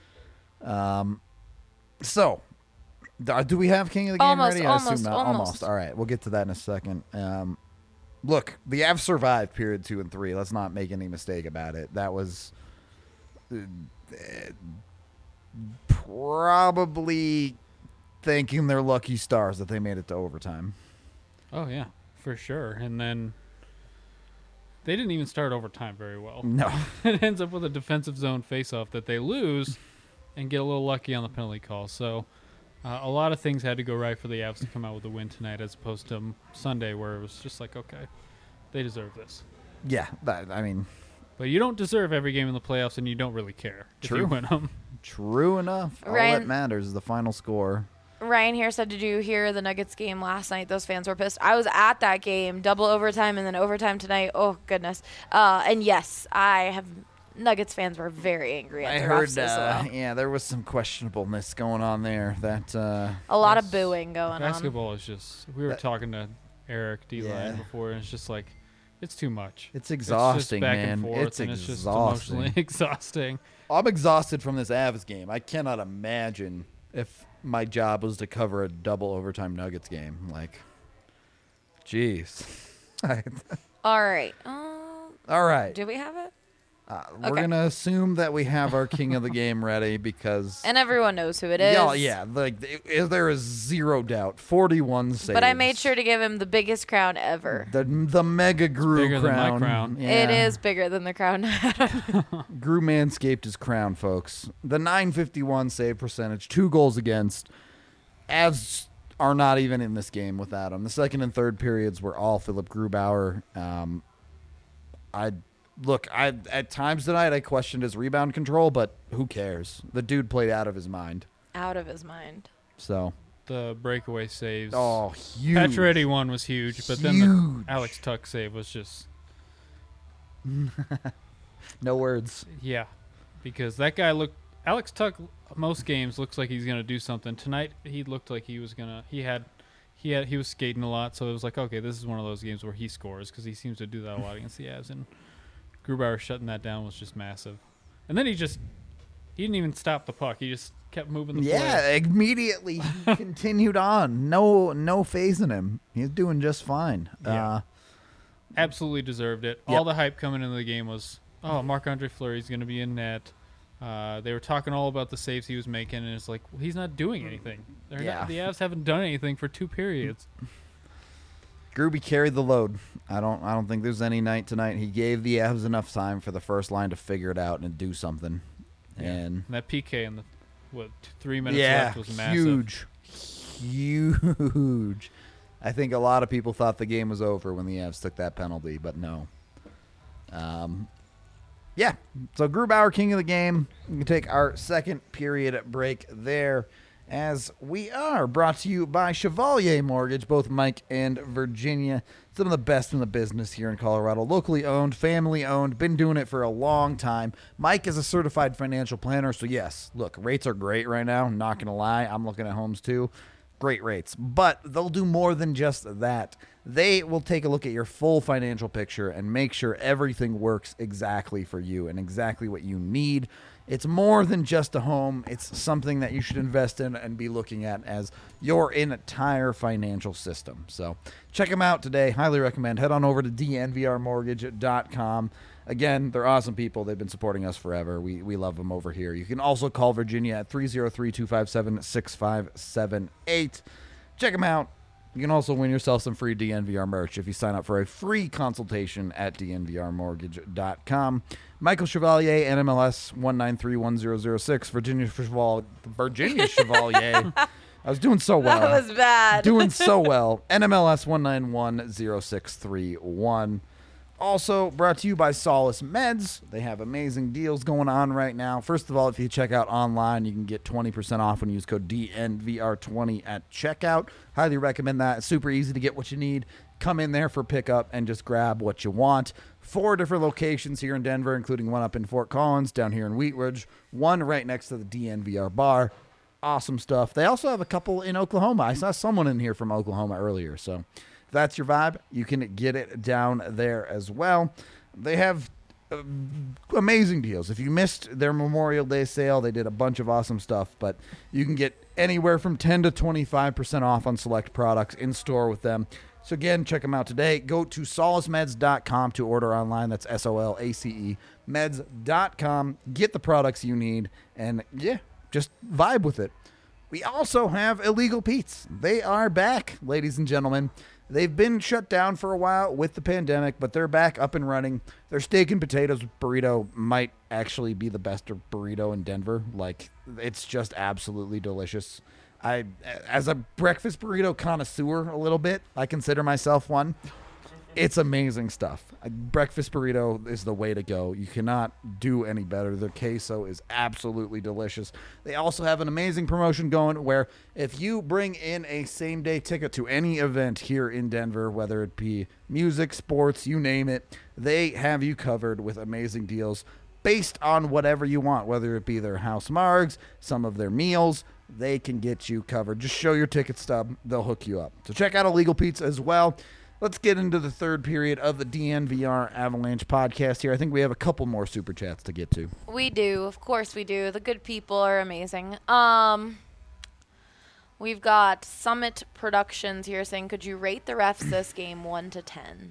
Um, so d- do we have King of the Game Almost, ready? I almost, assume not. almost. All right, we'll get to that in a second. Um, look, the Avs survived period two and three. Let's not make any mistake about it. That was uh, probably thanking their lucky stars that they made it to overtime. Oh yeah, for sure. And then they didn't even start overtime very well. No. It ends up with a defensive zone faceoff that they lose, and get a little lucky on the penalty call. So uh, a lot of things had to go right for the Avs to come out with a win tonight, as opposed to Sunday, where it was just like, okay, they deserve this. Yeah, that, I mean, But you don't deserve every game in the playoffs, and you don't really care if True. you win them. true enough. All that Ryan- matters is the final score. Ryan here said, "Did you hear the Nuggets game last night? Those fans were pissed." I was at that game, double overtime, and then overtime tonight. Oh goodness! Uh, and yes, I have. Nuggets fans were very angry at I the heard, refs as uh, well. yeah, there was some questionableness going on there. That uh, A lot of Yes. booing going on. Basketball is just. We were That- talking to Eric D. Yeah. Line before, and it's just like, it's too much. it's It's exhausting, just back man. and forth, it's and it's just exhausting. emotionally exhausting. I'm exhausted from this Avs game. I cannot imagine if my job was to cover a double overtime Nuggets game. Like, jeez. All right. Um, All right. do we have it? Uh, we're Okay. gonna assume that we have our king of the game ready because And everyone knows who it is. yeah, yeah, like th- there is zero doubt. forty-one saves. But I made sure to give him the biggest crown ever. the the mega Gru bigger than my crown. crown. It Yeah. is bigger than the crown. Gru manscaped his crown, folks. The nine fifty-one save percentage, two goals against. Avs are not even in this game without him. The second and third periods were all Philip Grubauer. Um, I look, I at times tonight I questioned his rebound control, but who cares? The dude played out of his mind. Out of his mind. So, The breakaway saves. oh, huge. Pacioretty one was huge, but then the Huge. Alex Tuck save was just, No words. yeah. Because that guy looked Alex Tuck, most games looks like he's gonna do something. Tonight he looked like he was gonna. He had, he had, he was skating a lot, so it was like, okay, this is one of those games where he scores because he seems to do that a lot against the Avs. And Grubauer shutting that down was just massive. And then he just, he didn't even stop the puck. He just kept moving the Yeah, play. immediately continued on. No, no phase in him. He's doing just fine. Yeah. Uh, Absolutely deserved it. Yep. All the hype coming into the game was, oh, Marc-Andre Fleury's going to be in net. Uh, they were talking all about the saves he was making, and it's like, well, he's not doing anything. They're Yeah. not, the Avs haven't done anything for two periods. Gruby carried the load. I don't. I don't think there's any night tonight. He gave the Avs enough time for the first line to figure it out and do something. And And that P K in the what t- three minutes yeah, left was massive. huge, huge. I think a lot of people thought the game was over when the Avs took that penalty, but no. Um, yeah. So Grubauer, king of the game. We can take our second period break there, as we are brought to you by Chevalier Mortgage, both Mike and Virginia. Some of the best in the business here in Colorado. Locally owned, family owned, been doing it for a long time. Mike is a certified financial planner, so yes, look, rates are great right now. I'm not going to lie. I'm looking at homes too. Great rates. But they'll do more than just that. They will take a look at your full financial picture and make sure everything works exactly for you and exactly what you need. It's more than just a home. It's something that you should invest in and be looking at as your entire financial system. So check them out today. Highly recommend. Head on over to d n v r mortgage dot com. Again, they're awesome people. They've been supporting us forever. We we love them over here. You can also call Virginia at three oh three, two five seven, six five seven eight. Check them out. You can also win yourself some free D N V R merch if you sign up for a free consultation at d n v r mortgage dot com. Michael Chevalier, N M L S one nine three one zero zero six. Virginia Chevalier. Virginia Chevalier. I was doing so well. That was bad. Doing so well. N M L S one nine one zero six three one. Also brought to you by Solace Meds. They have amazing deals going on right now. First of all, if you check out online, you can get twenty percent off when you use code D N V R twenty at checkout. Highly recommend that. It's super easy to get what you need. Come in there for pickup and just grab what you want. Four different locations here in Denver, including one up in Fort Collins, down here in Wheat Ridge, one right next to the D N V R bar. Awesome stuff. They also have a couple in Oklahoma. I saw someone in here from Oklahoma earlier, so if that's your vibe, you can get it down there as well. They have uh, amazing deals. If you missed their Memorial Day sale, they did a bunch of awesome stuff, but you can get anywhere from ten to twenty-five percent off on select products in store with them. So again, check them out today. Go to solace meds dot com to order online. That's S O L A C E meds dot com. Get the products you need, and yeah, just vibe with it. We also have Illegal Pete's. They are back, ladies and gentlemen. They've been shut down for a while with the pandemic, but they're back up and running. Their steak and potatoes burrito might actually be the best burrito in Denver. Like, it's just absolutely delicious. I, as a breakfast burrito connoisseur a little bit, I consider myself one. It's amazing stuff. A breakfast burrito is the way to go. You cannot do any better. Their queso is absolutely delicious. They also have an amazing promotion going where if you bring in a same-day ticket to any event here in Denver, whether it be music, sports, you name it, they have you covered with amazing deals based on whatever you want, whether it be their house margs, some of their meals. They can get you covered. Just show your ticket stub. They'll hook you up. So check out Illegal Pizza as well. Let's get into the third period of the D N V R Avalanche podcast here. I think we have a couple more super chats to get to. We do. Of course we do. The good people are amazing. Um, we've got Summit Productions here saying, could you rate the refs this game one to ten?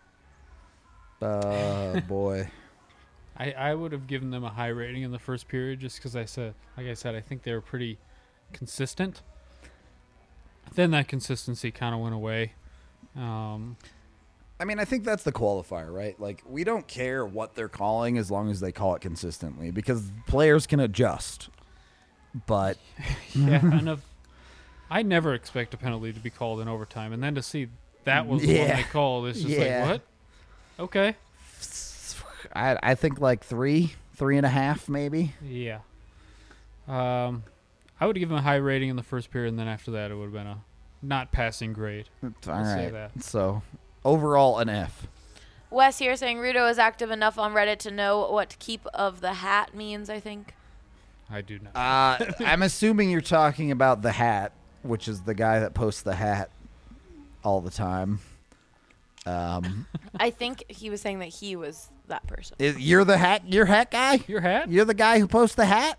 Uh, boy. I, I would have given them a high rating in the first period just because I said, like I said, I think they were pretty consistent. Then that consistency kind of went away. Um, I mean, I think that's the qualifier, right? Like, we don't care what they're calling as long as they call it consistently because players can adjust. But yeah, and if, I never expect a penalty to be called in overtime, and then to see that was the Yeah. one they called, it's just Yeah. like, what? Okay. I, I think like three, three and a half maybe. Yeah. Um, I would give them a high rating in the first period, and then after that, it would have been a not passing grade. All I'll say right. that. So, overall, an F. Wes here saying Rudo is active enough on Reddit to know what keep of the hat means, I think. I do not. Uh, I'm assuming you're talking about the hat, which is the guy that posts the hat all the time. Um, I think he was saying that he was that person. is, you're the hat. You're hat guy. Your hat? You're the guy who posts the hat.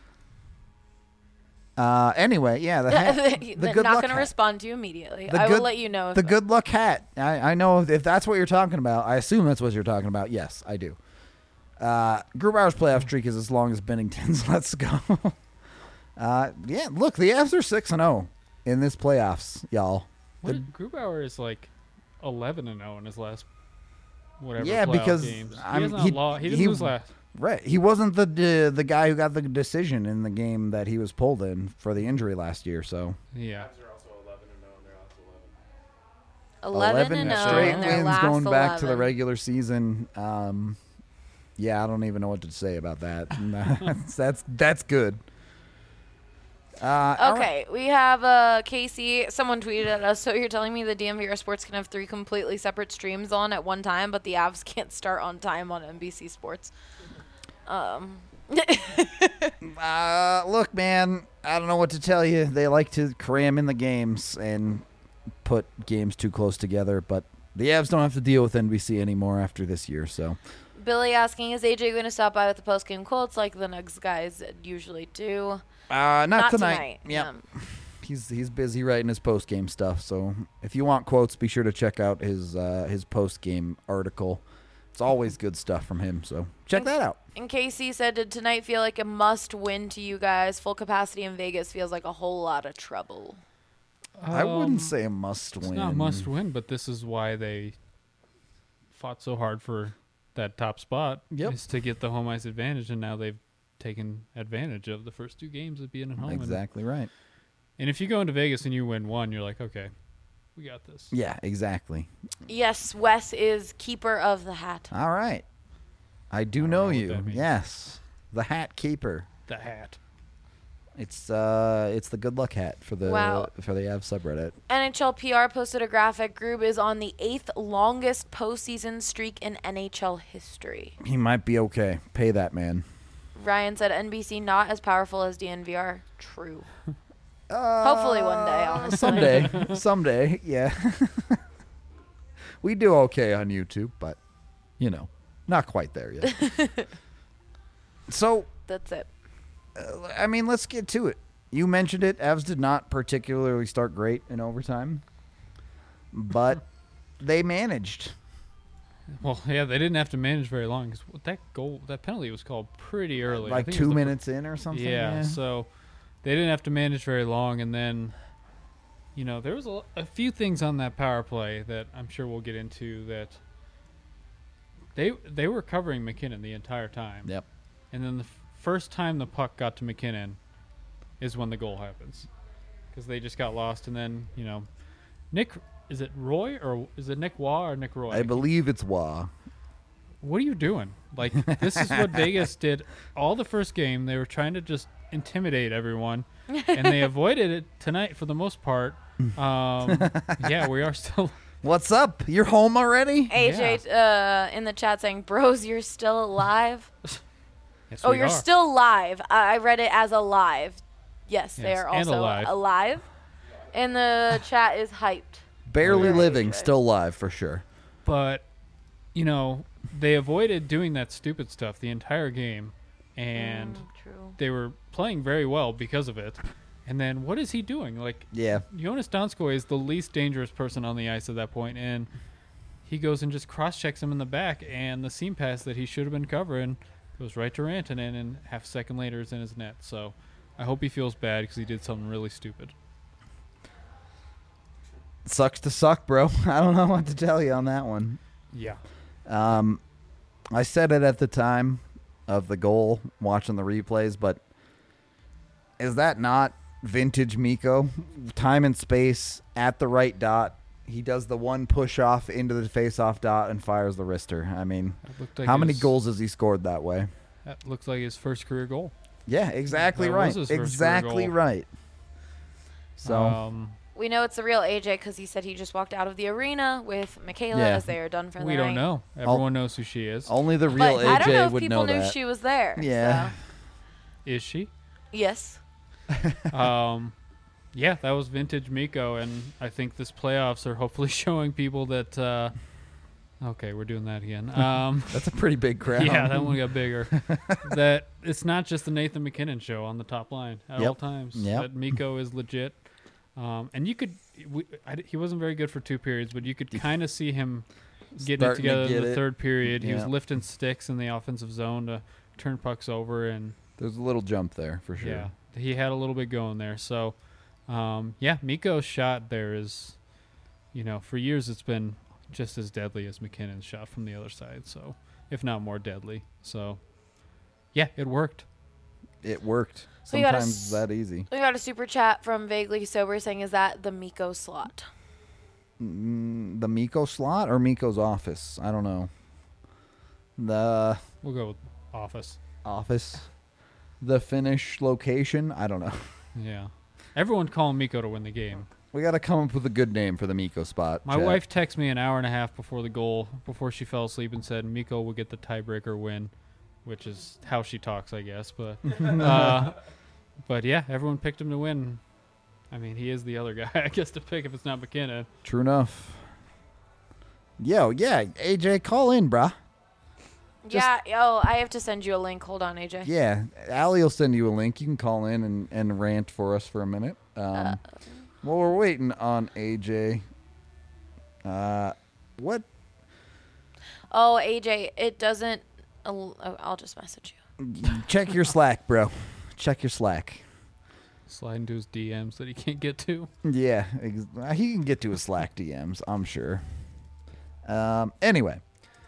Uh, anyway, yeah, the hat. The They're good not luck going to hat. respond to you immediately. The I good- will let you know. If The good luck hat. I, I know if that's what you're talking about. I assume that's what you're talking about. Yes, I do. Uh, Grubauer's playoff streak is as long as Bennington's. Let's go. uh, yeah, look, the Avs are six and zero in this playoffs, y'all. What, The- Grubauer is like eleven and zero in his last whatever. Yeah, playoff because, games. he I'm- hasn't he- lo- he didn't he- lose last. Right, he wasn't the the the guy who got the decision in the game that he was pulled in for the injury last year. So Yeah. Avs are also eleven and oh in their last eleven. eleven and oh straight in their wins last going back to the eleven. regular season. Um, yeah, I don't even know what to say about that. that's, that's that's good. Uh, all right. Okay, we have uh, Casey. Someone tweeted at us. So you're telling me the D M V R Sports can have three completely separate streams on at one time, but the Avs can't start on time on N B C Sports. Um, Uh, look, man, I don't know what to tell you. They like to cram in the games and put games too close together, but the Avs don't have to deal with N B C anymore after this year. So Billy asking, is A J going to stop by with the post-game quotes like the Nugs guys usually do? uh, not, Not tonight. tonight. Yep. Um, He's he's busy writing his post game stuff. So if you want quotes, be sure to check out his uh, his post game article. It's always good stuff from him. So check that out. And Casey said, did tonight feel like a must-win to you guys? Full capacity in Vegas feels like a whole lot of trouble. I Um, wouldn't say a must It's win. not must win, but this is why they fought so hard for that top spot. Yep. Is to get the home ice advantage, and now they've taken advantage of the first two games of being at home. And- Exactly right. And if you go into Vegas and you win one, you're like, okay, we got this. Yeah, exactly. Yes, Wes is keeper of the hat. All right. I do don't know, know what you. that means. Yes. The hat keeper. The hat. It's uh it's the good luck hat for the Wow. for the Av subreddit. N H L P R posted a graphic. Grube is on the eighth longest postseason streak in N H L history. He might be okay. Pay that man. Ryan said N B C not as powerful as D N V R. True. Uh, Hopefully one day, honestly. Someday. Someday, yeah. We do okay on YouTube, but you know, not quite there yet. So, That's it. uh, I mean, let's get to it. You mentioned it. Avs did not particularly start great in overtime, but they managed. Well, yeah, they didn't have to manage very long because that goal, that penalty was called pretty early. I Like think it two was the fir- minutes in or something. Yeah, so they didn't have to manage very long, and then, you know, there was a, a few things on that power play that I'm sure we'll get into that they they were covering McKinnon the entire time. Yep. And then the f- first time the puck got to McKinnon is when the goal happens, because they just got lost, and then you know, Nick is it Roy or is it Nick Waugh or Nick Roy? I believe it's Wah. What are you doing? Like, this is what Vegas did all the first game. They were trying to just intimidate everyone, and they avoided it tonight for the most part. Um, yeah, we are still. What's up? You're home already? A J uh, in the chat saying, bros, you're still alive. Yes, Oh, we you're are. still live. I I read it as alive. Yes, they Yes, are and also alive. alive. And the chat is hyped. Barely Oh, yeah. living, still live for sure. But, you know, they avoided doing that stupid stuff the entire game, and Mm, true. they were playing very well because of it. And then what is he doing? Like, Yeah. Jonas Donskoy is the least dangerous person on the ice at that point, and he goes and just cross-checks him in the back, and the seam pass that he should have been covering goes right to Rantanen, and half a second later is in his net. So I hope he feels bad because he did something really stupid. Sucks to suck, bro. I don't know what to tell you on that one. Yeah. Um, I said it at the time of the goal, watching the replays, but is that not vintage Miko? Time and space at the right dot. He does the one push off into the face off dot and fires the wrister. I mean, That looked like how many his- goals has he scored that way? That looks like his first career goal. Yeah, exactly That right. was his first Exactly career goal. right. So, um, We know it's the real A J because he said he just walked out of the arena with Michaela Yeah. as they are done for the we night. don't know. Everyone knows who she is. only the real But I don't A J know if would people know knew that. she was there. Yeah. so. Is she? Yes. Um, yeah, that was vintage Miko, and I think this playoffs are hopefully showing people that. Uh, okay, we're doing that again. Um, That's a pretty big crowd. yeah, that one got bigger. That it's not just the Nathan McKinnon show on the top line at Yep. all times. Yep. That Miko is legit, um, and you could. We, I, he wasn't very good for two periods, but you could kind of see him getting it Starting to together get in the it. third period. He was Yeah. lifting sticks in the offensive zone to turn pucks over, and There's a little jump there for sure. yeah, he had a little bit going there. So, um, yeah, Miko's shot there is, you know, for years it's been just as deadly as McKinnon's shot from the other side. So, if not more deadly. So, yeah, it worked. It worked. We got a Sometimes s- that easy. We got a super chat from Vaguely Sober saying, "Is that the Miko slot?" Mm, the Miko slot or Miko's office? I don't know. The We'll go with office. office, the Finnish location. I don't know. Yeah. Everyone calling Miko to win the game. We got to come up with a good name for the Miko spot. My chat. wife texted me an hour and a half before the goal, before she fell asleep, and said Miko will get the tiebreaker win, which is how she talks, I guess. But, uh, but yeah, everyone picked him to win. I mean, he is the other guy, I guess, to pick if it's not McKinnon. True enough. Yo, yeah, A J, call in, bruh. Yeah. Oh, I have to send you a link. Hold on, A J. Yeah, Allie will send you a link. You can call in and, and rant for us for a minute. Um, Uh, while we're waiting on A J, uh, what? Oh, A J, it doesn't. Oh, I'll just message you. Check your Slack, bro. Check your Slack. Slide into his D Ms that he can't get to. Yeah, ex- he can get to his Slack D Ms, I'm sure. Um, anyway,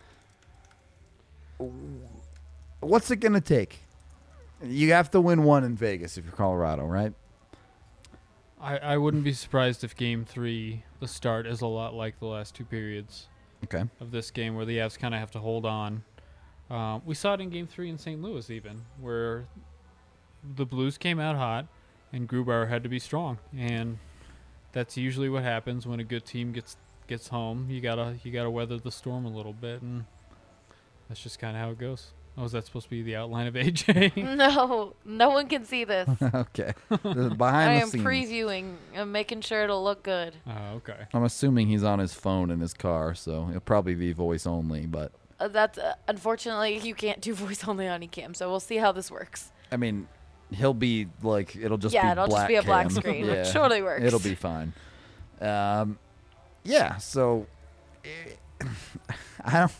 what's it gonna take? You have to win one in Vegas if you're Colorado, right? I, I wouldn't be surprised if game three, the start, is a lot like the last two periods Okay. of this game where the Avs kind of have to hold on. Um, we saw it in game three in Saint Louis even, where the Blues came out hot and Grubauer had to be strong. And that's usually what happens when a good team gets gets home. You gotta you gotta weather the storm a little bit, and that's just kind of how it goes. Oh, is that supposed to be the outline of A J? No, no one can see this. Okay. The I behind the am scenes. previewing and making sure it'll look good. Oh, okay. I'm assuming he's on his phone in his car, so it'll probably be voice only. But Uh, that's uh, unfortunately you can't do voice only on eCam, so we'll see how this works. I mean, he'll be like it'll just Yeah, be it'll just black be a black cam. screen, Yeah. which totally works. It'll be fine. Um, yeah. So, eh, I don't.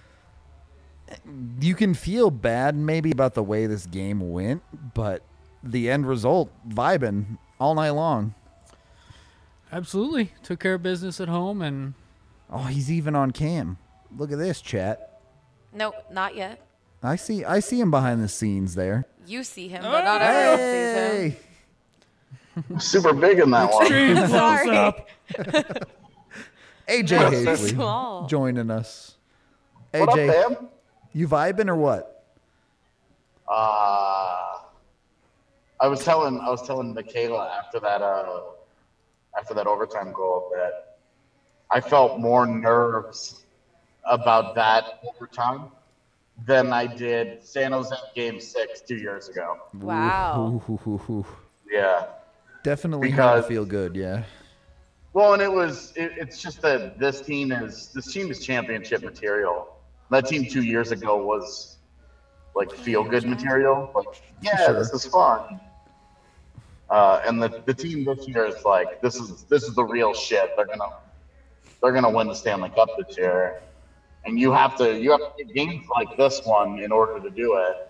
You can feel bad maybe about the way this game went, but the end result, vibing all night long. Absolutely. Took care of business at home, and Oh, he's even on cam. Look at this, chat. Nope, not yet. I see. I see him behind the scenes there. You see him, but not everyone sees him. Hey, Super big in that one. extreme close Sorry. up. A J What's Hazley small. joining us. What up, A J, fam? you vibing or what? Uh, I was telling I was telling Michaela after that uh, after that overtime goal that I felt more nerves about that overtime than I did San Jose Game Six two years ago. Wow. Ooh, ooh, ooh, ooh. Yeah. Definitely hard to Because- feel good. Yeah. Well, and it was it, it's just that this team is this team is championship material. That team two years ago was like feel good material. Like, yeah, Sure. this is fun. Uh, and the, the team this year is like this is this is the real shit. They're gonna they're gonna win the Stanley Cup this year. And you have to you have to get games like this one in order to do it.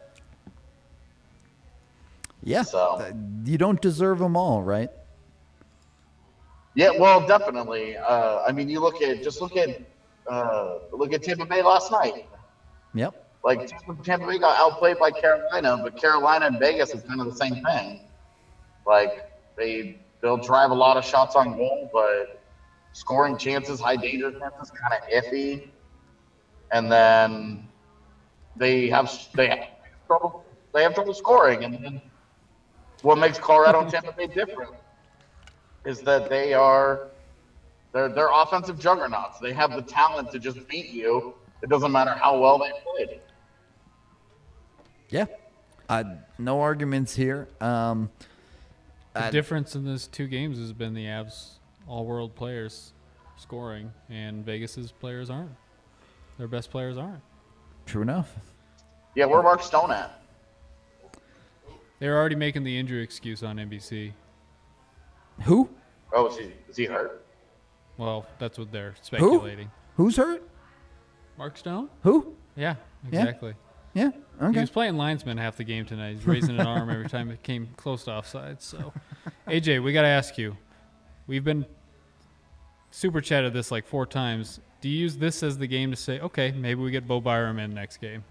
Yeah. So- Uh, you don't deserve them all, right? Yeah, well, definitely. Uh, I mean, you look at just look at uh, look at Tampa Bay last night. Yep. Like Tampa Bay got outplayed by Carolina, but Carolina and Vegas is kind of the same thing. Like they they'll drive a lot of shots on goal, but scoring chances, high danger chances, kind of iffy. And then they have they have trouble they have trouble scoring. And then what makes Colorado and Tampa Bay different is that they are they're they're offensive juggernauts. They have the talent to just beat you. It doesn't matter how well they played. Yeah. Uh, no arguments here. Um, The I- difference in those two games has been the Avs all-world players scoring, and Vegas's players aren't. Their best players aren't. True enough. Yeah, where Mark Stone at? They're already making the injury excuse on N B C. Who? Oh, is he, is he hurt? Well, that's what they're speculating. Who's hurt? Mark Stone? Who? Yeah, Yeah. exactly. Yeah. He Okay. was playing linesman half the game tonight. He's raising an arm every time it came close to offside. So, A J, we got to ask you. We've been super chatted this like four times. Do you use this as the game to say, okay, maybe we get Bo Byram in next game?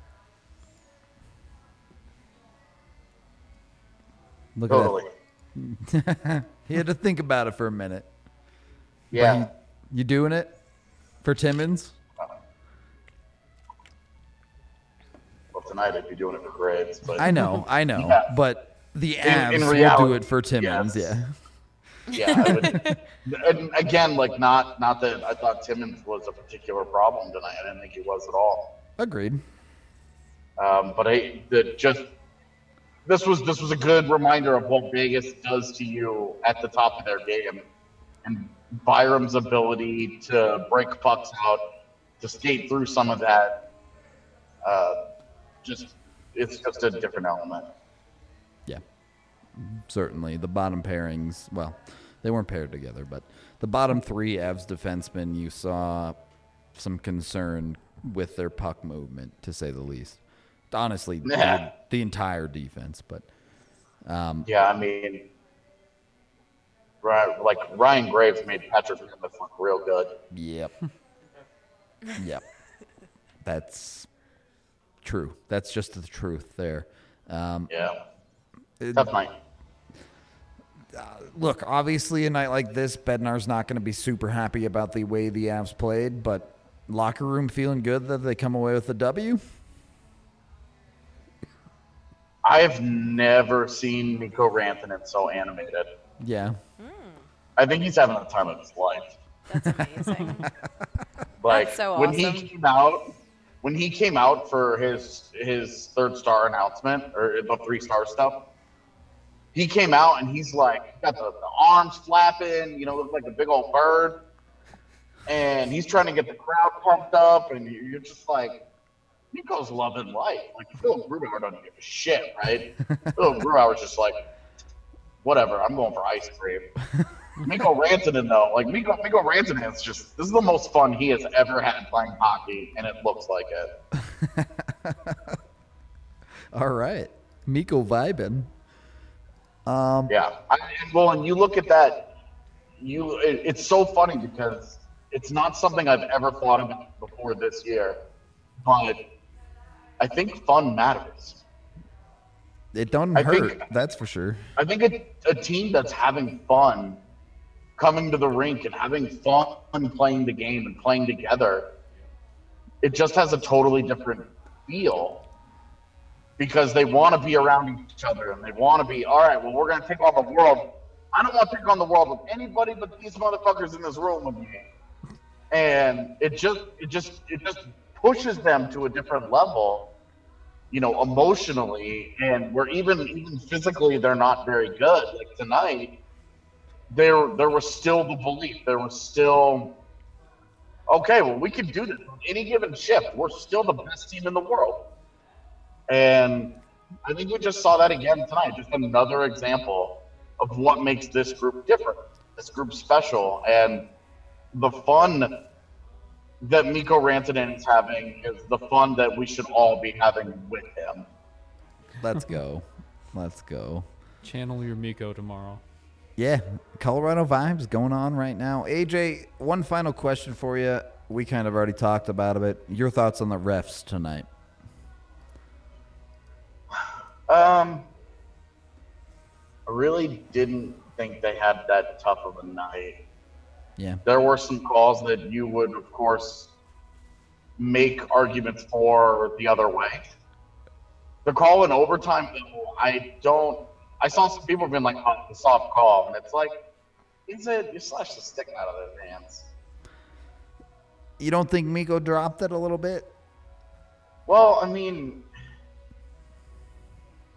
Look Totally. at that. He had to think about it for a minute. Yeah. You doing it for Timmins? Well, tonight I'd be doing it for grades, but I know, I know, Yeah. but the In- Avs in will do reality, it for Timmins. yes. Yeah. yeah. I would, and again, like not not that I thought Timmins was a particular problem tonight. I didn't think he was at all. Agreed. Um, but I the just this was this was a good reminder of what Vegas does to you at the top of their game, and Byram's ability to break pucks out, to skate through some of that. Uh, just it's just a different element. Yeah. Certainly. The bottom pairings, well, they weren't paired together, but the bottom three Avs defensemen, you saw some concern with their puck movement, to say the least. Honestly, Yeah. the, the entire defense, but um, Yeah, I mean, right, like Ryan Graves made Patrick Plymouth look real good. yep. Yep. That's true. That's just the truth there. Um, Yeah, it- tough night. look, obviously a night like this, Bednar's not going to be super happy about the way the Avs played, but locker room feeling good that they come away with a W? I've never seen Mikko Rantanen so animated. Yeah. I think he's having the time of his life. That's amazing. Like That's so when awesome. he came out, when he came out for his his third star announcement or the three star stuff, he came out and he's like got the, the arms flapping, you know, look like a big old bird, and he's trying to get the crowd pumped up, and you're just like, Nico's loving life. Like Philip Grubauer doesn't give a shit, right? Philip Grubauer's just like, whatever, I'm going for ice cream. Mikko Rantanen, though, like Mikko, Mikko Rantanen's just, this is the most fun he has ever had playing hockey, and it looks like it. All right. Mikko vibing. Um, Yeah. I, and, well, and you look at that, you it, it's so funny because it's not something I've ever thought about before this year, but I think fun matters. it doesn't I hurt, think- that's for sure. I think a, a team that's having fun coming to the rink and having fun playing the game and playing together, it just has a totally different feel because they want to be around each other and they want to be, all right, well, we're going to take on the world. I don't want to take on the world with anybody but these motherfuckers in this room with me. And it just, it just, it just pushes them to a different level, you know, emotionally, and where even even physically they're not very good. Like tonight, there there was still the belief. There was still, okay, well, we can do this. On any given shift, we're still the best team in the world. And I think we just saw that again tonight. Just another example of what makes this group different, this group special, and the fun that Mikko Rantanen is having is the fun that we should all be having with him. Let's go. Let's go. Channel your Miko tomorrow. Yeah, Colorado vibes going on right now. A J, one final question for you. We kind of already talked about it. Your thoughts on the refs tonight? Um, I really didn't think they had that tough of a night. Yeah. There were some calls that you would, of course, make arguments for the other way. The call in overtime, though, I don't. I saw some people being like, "Oh, the soft call," and it's like, is it? You slash the stick out of their hands. You don't think Mikko dropped it a little bit? Well, I mean,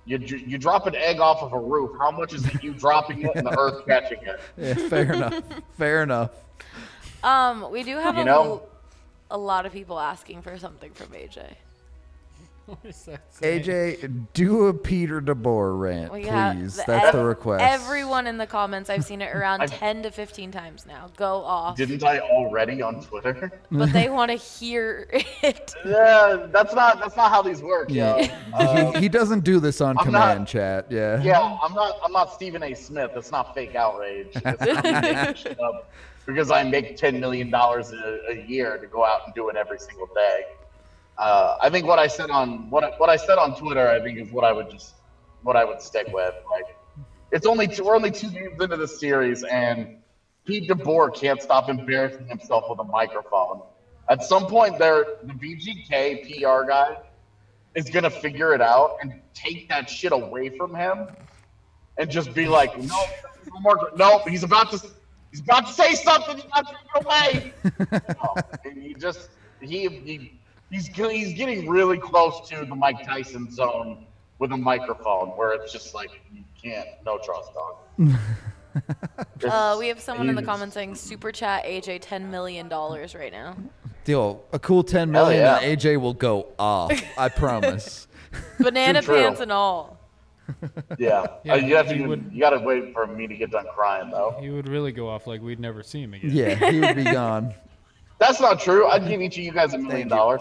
You you drop an egg off of a roof. How much is it you dropping it and the earth catching it? Yeah, fair enough. Fair enough. Um, we do have You a, know? a lot of people asking for something from A J. What is that A saying? J, do a Peter DeBoer rant, We please. have That's ev- the request. Everyone in the comments, I've seen it around I've- ten to fifteen times now. Go off. Didn't I already on Twitter? But they want to hear it. Yeah, that's not that's not how these work, yo. Uh, he, he doesn't do this on I'm command, not- chat. Yeah. yeah, I'm not I'm not Stephen A. Smith. It's not fake outrage. It's not me making shit up because I make ten million dollars a, a year to go out and do it every single day. Uh, I think what I said on what I, what I said on Twitter, I think is what I would just what I would stick with. Like, it's only two, we're only two games into the series, and Pete DeBoer can't stop embarrassing himself with a microphone. At some point, there the V G K P R guy is gonna figure it out and take that shit away from him, and just be like, no, no more, no, he's about to he's about to say something, he's about to take it away. No, and he just he he. He's he's getting really close to the Mike Tyson zone with a microphone, where it's just like you can't, no trust dog. Uh, we have someone in the He's- comments saying super chat A J ten million dollars right now. Deal. A cool ten million Hell yeah. and A J will go off. I promise. Banana Too true. pants and all. Yeah, Yeah, Uh, you have to. he would- You gotta wait for me to get done crying though. He would really go off like we'd never see him again. Yeah, he would be gone. That's not true. I'd give each of you guys a million dollars.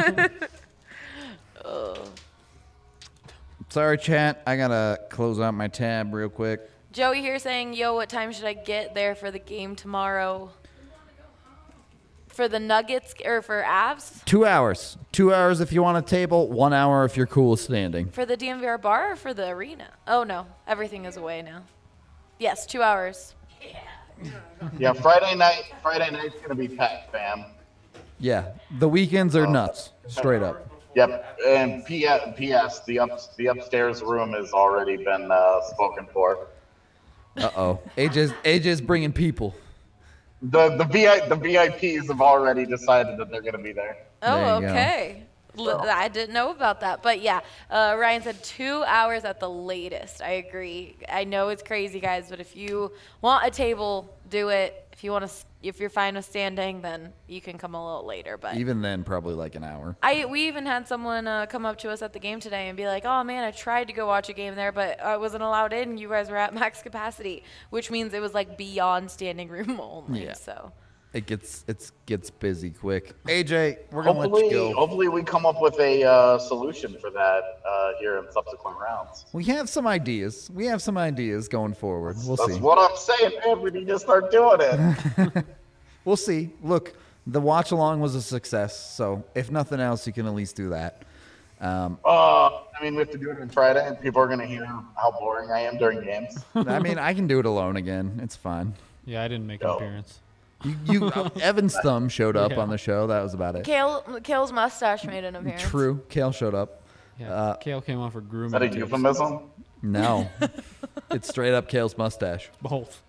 Sorry, chat. I gotta close out my tab real quick. Joey here saying, yo, what time should I get there for the game tomorrow? For the Nuggets or for Avs? Two hours. Two hours if you want a table. One hour if you're cool with standing. For the D M V R bar or for the arena? Oh, no. Everything is away now. Yes, two hours. Yeah, Friday night. Friday night's gonna be packed, fam. Yeah, the weekends are nuts. Straight up. Yep, and P S the up the upstairs room has already been uh, spoken for. Uh oh. A J's A J's bringing people. The the VI, the V I Ps have already decided that they're gonna be there. Oh, There you go. okay. L- I didn't know about that. But yeah, uh, Ryan said two hours at the latest. I agree. I know it's crazy, guys, but if you want a table, do it. If you want to, if you're fine with standing, then you can come a little later. But Even then, probably like an hour. I we even had someone uh, come up to us at the game today and be like, "Oh man, I tried to go watch a game there, but I wasn't allowed in. You guys were at max capacity," which means it was like beyond standing room only. Yeah. So It gets it gets busy quick. A J, we're gonna let Hopefully, you go. hopefully we come up with a uh, solution for that uh, here in subsequent rounds. We have some ideas. We have some ideas going forward. We'll That's see. what I'm saying, man. We need to start doing it. We'll see. Look, the watch along was a success, so if nothing else, you can at least do that. Um, Uh, I mean, we have to do it on Friday, and people are gonna hear how boring I am during games. I mean, I can do it alone again. It's fine. Yeah, I didn't make Yo. an appearance. You, you uh, Evan's thumb showed up Yeah. on the show. That was about it. Kale, Kale's mustache made an appearance. True. Kale showed up. Yeah, Uh, Kale came on for grooming. Is that a tips. euphemism? No, it's straight up Kale's mustache. Both.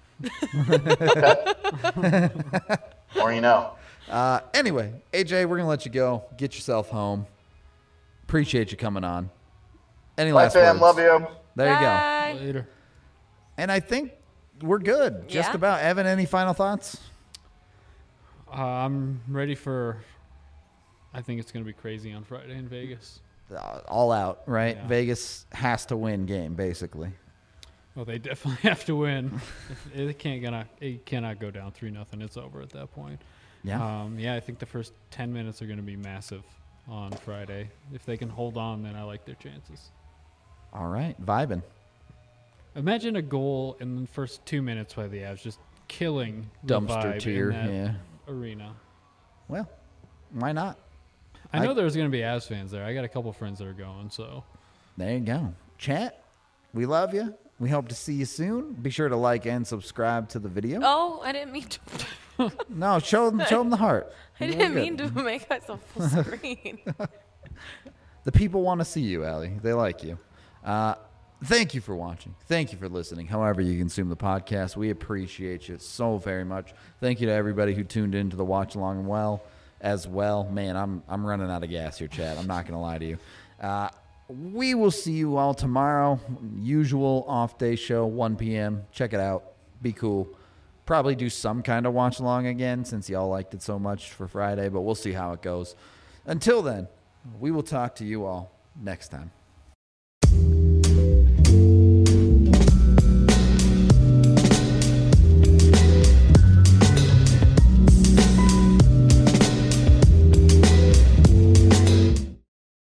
Or you know. Uh, anyway, A J, we're gonna let you go. Get yourself home. Appreciate you coming on. Any Bye, last fam. words? Love you. There you go. Bye. Later. And I think we're good. Just Yeah. about. Evan, any final thoughts? Uh, I'm ready for. I think it's going to be crazy on Friday in Vegas. Uh, all out, right? Yeah. Vegas has to win game, basically. Well, they definitely have to win. If- it can't gonna. It cannot go down three nothing. It's over at that point. Yeah. Um, yeah, I think the first ten minutes are going to be massive on Friday. If they can hold on, then I like their chances. All right, vibing. Imagine a goal in the first two minutes by the Avs, just killing the Dumpster vibe tier. in that Yeah. arena. Well, why not? I know I- there's going to be Avs fans there. I got a couple friends that are going, so There you go. Chat, we love you. We hope to see you soon. Be sure to like and subscribe to the video. Oh, I didn't mean to. No, show them, show them the heart. I You're didn't good. mean to make myself full screen. The people want to see you, Allie. They like you. Uh, thank you for watching. Thank you for listening. However you consume the podcast, we appreciate you so very much. Thank you to everybody who tuned into the watch along well as well. Man, I'm I'm running out of gas here, Chad. I'm not gonna lie to you. Uh, we will see you all tomorrow. Usual off day show, one p.m. Check it out. Be cool. Probably do some kind of watch along again since y'all liked it so much for Friday, but we'll see how it goes. Until then, we will talk to you all next time.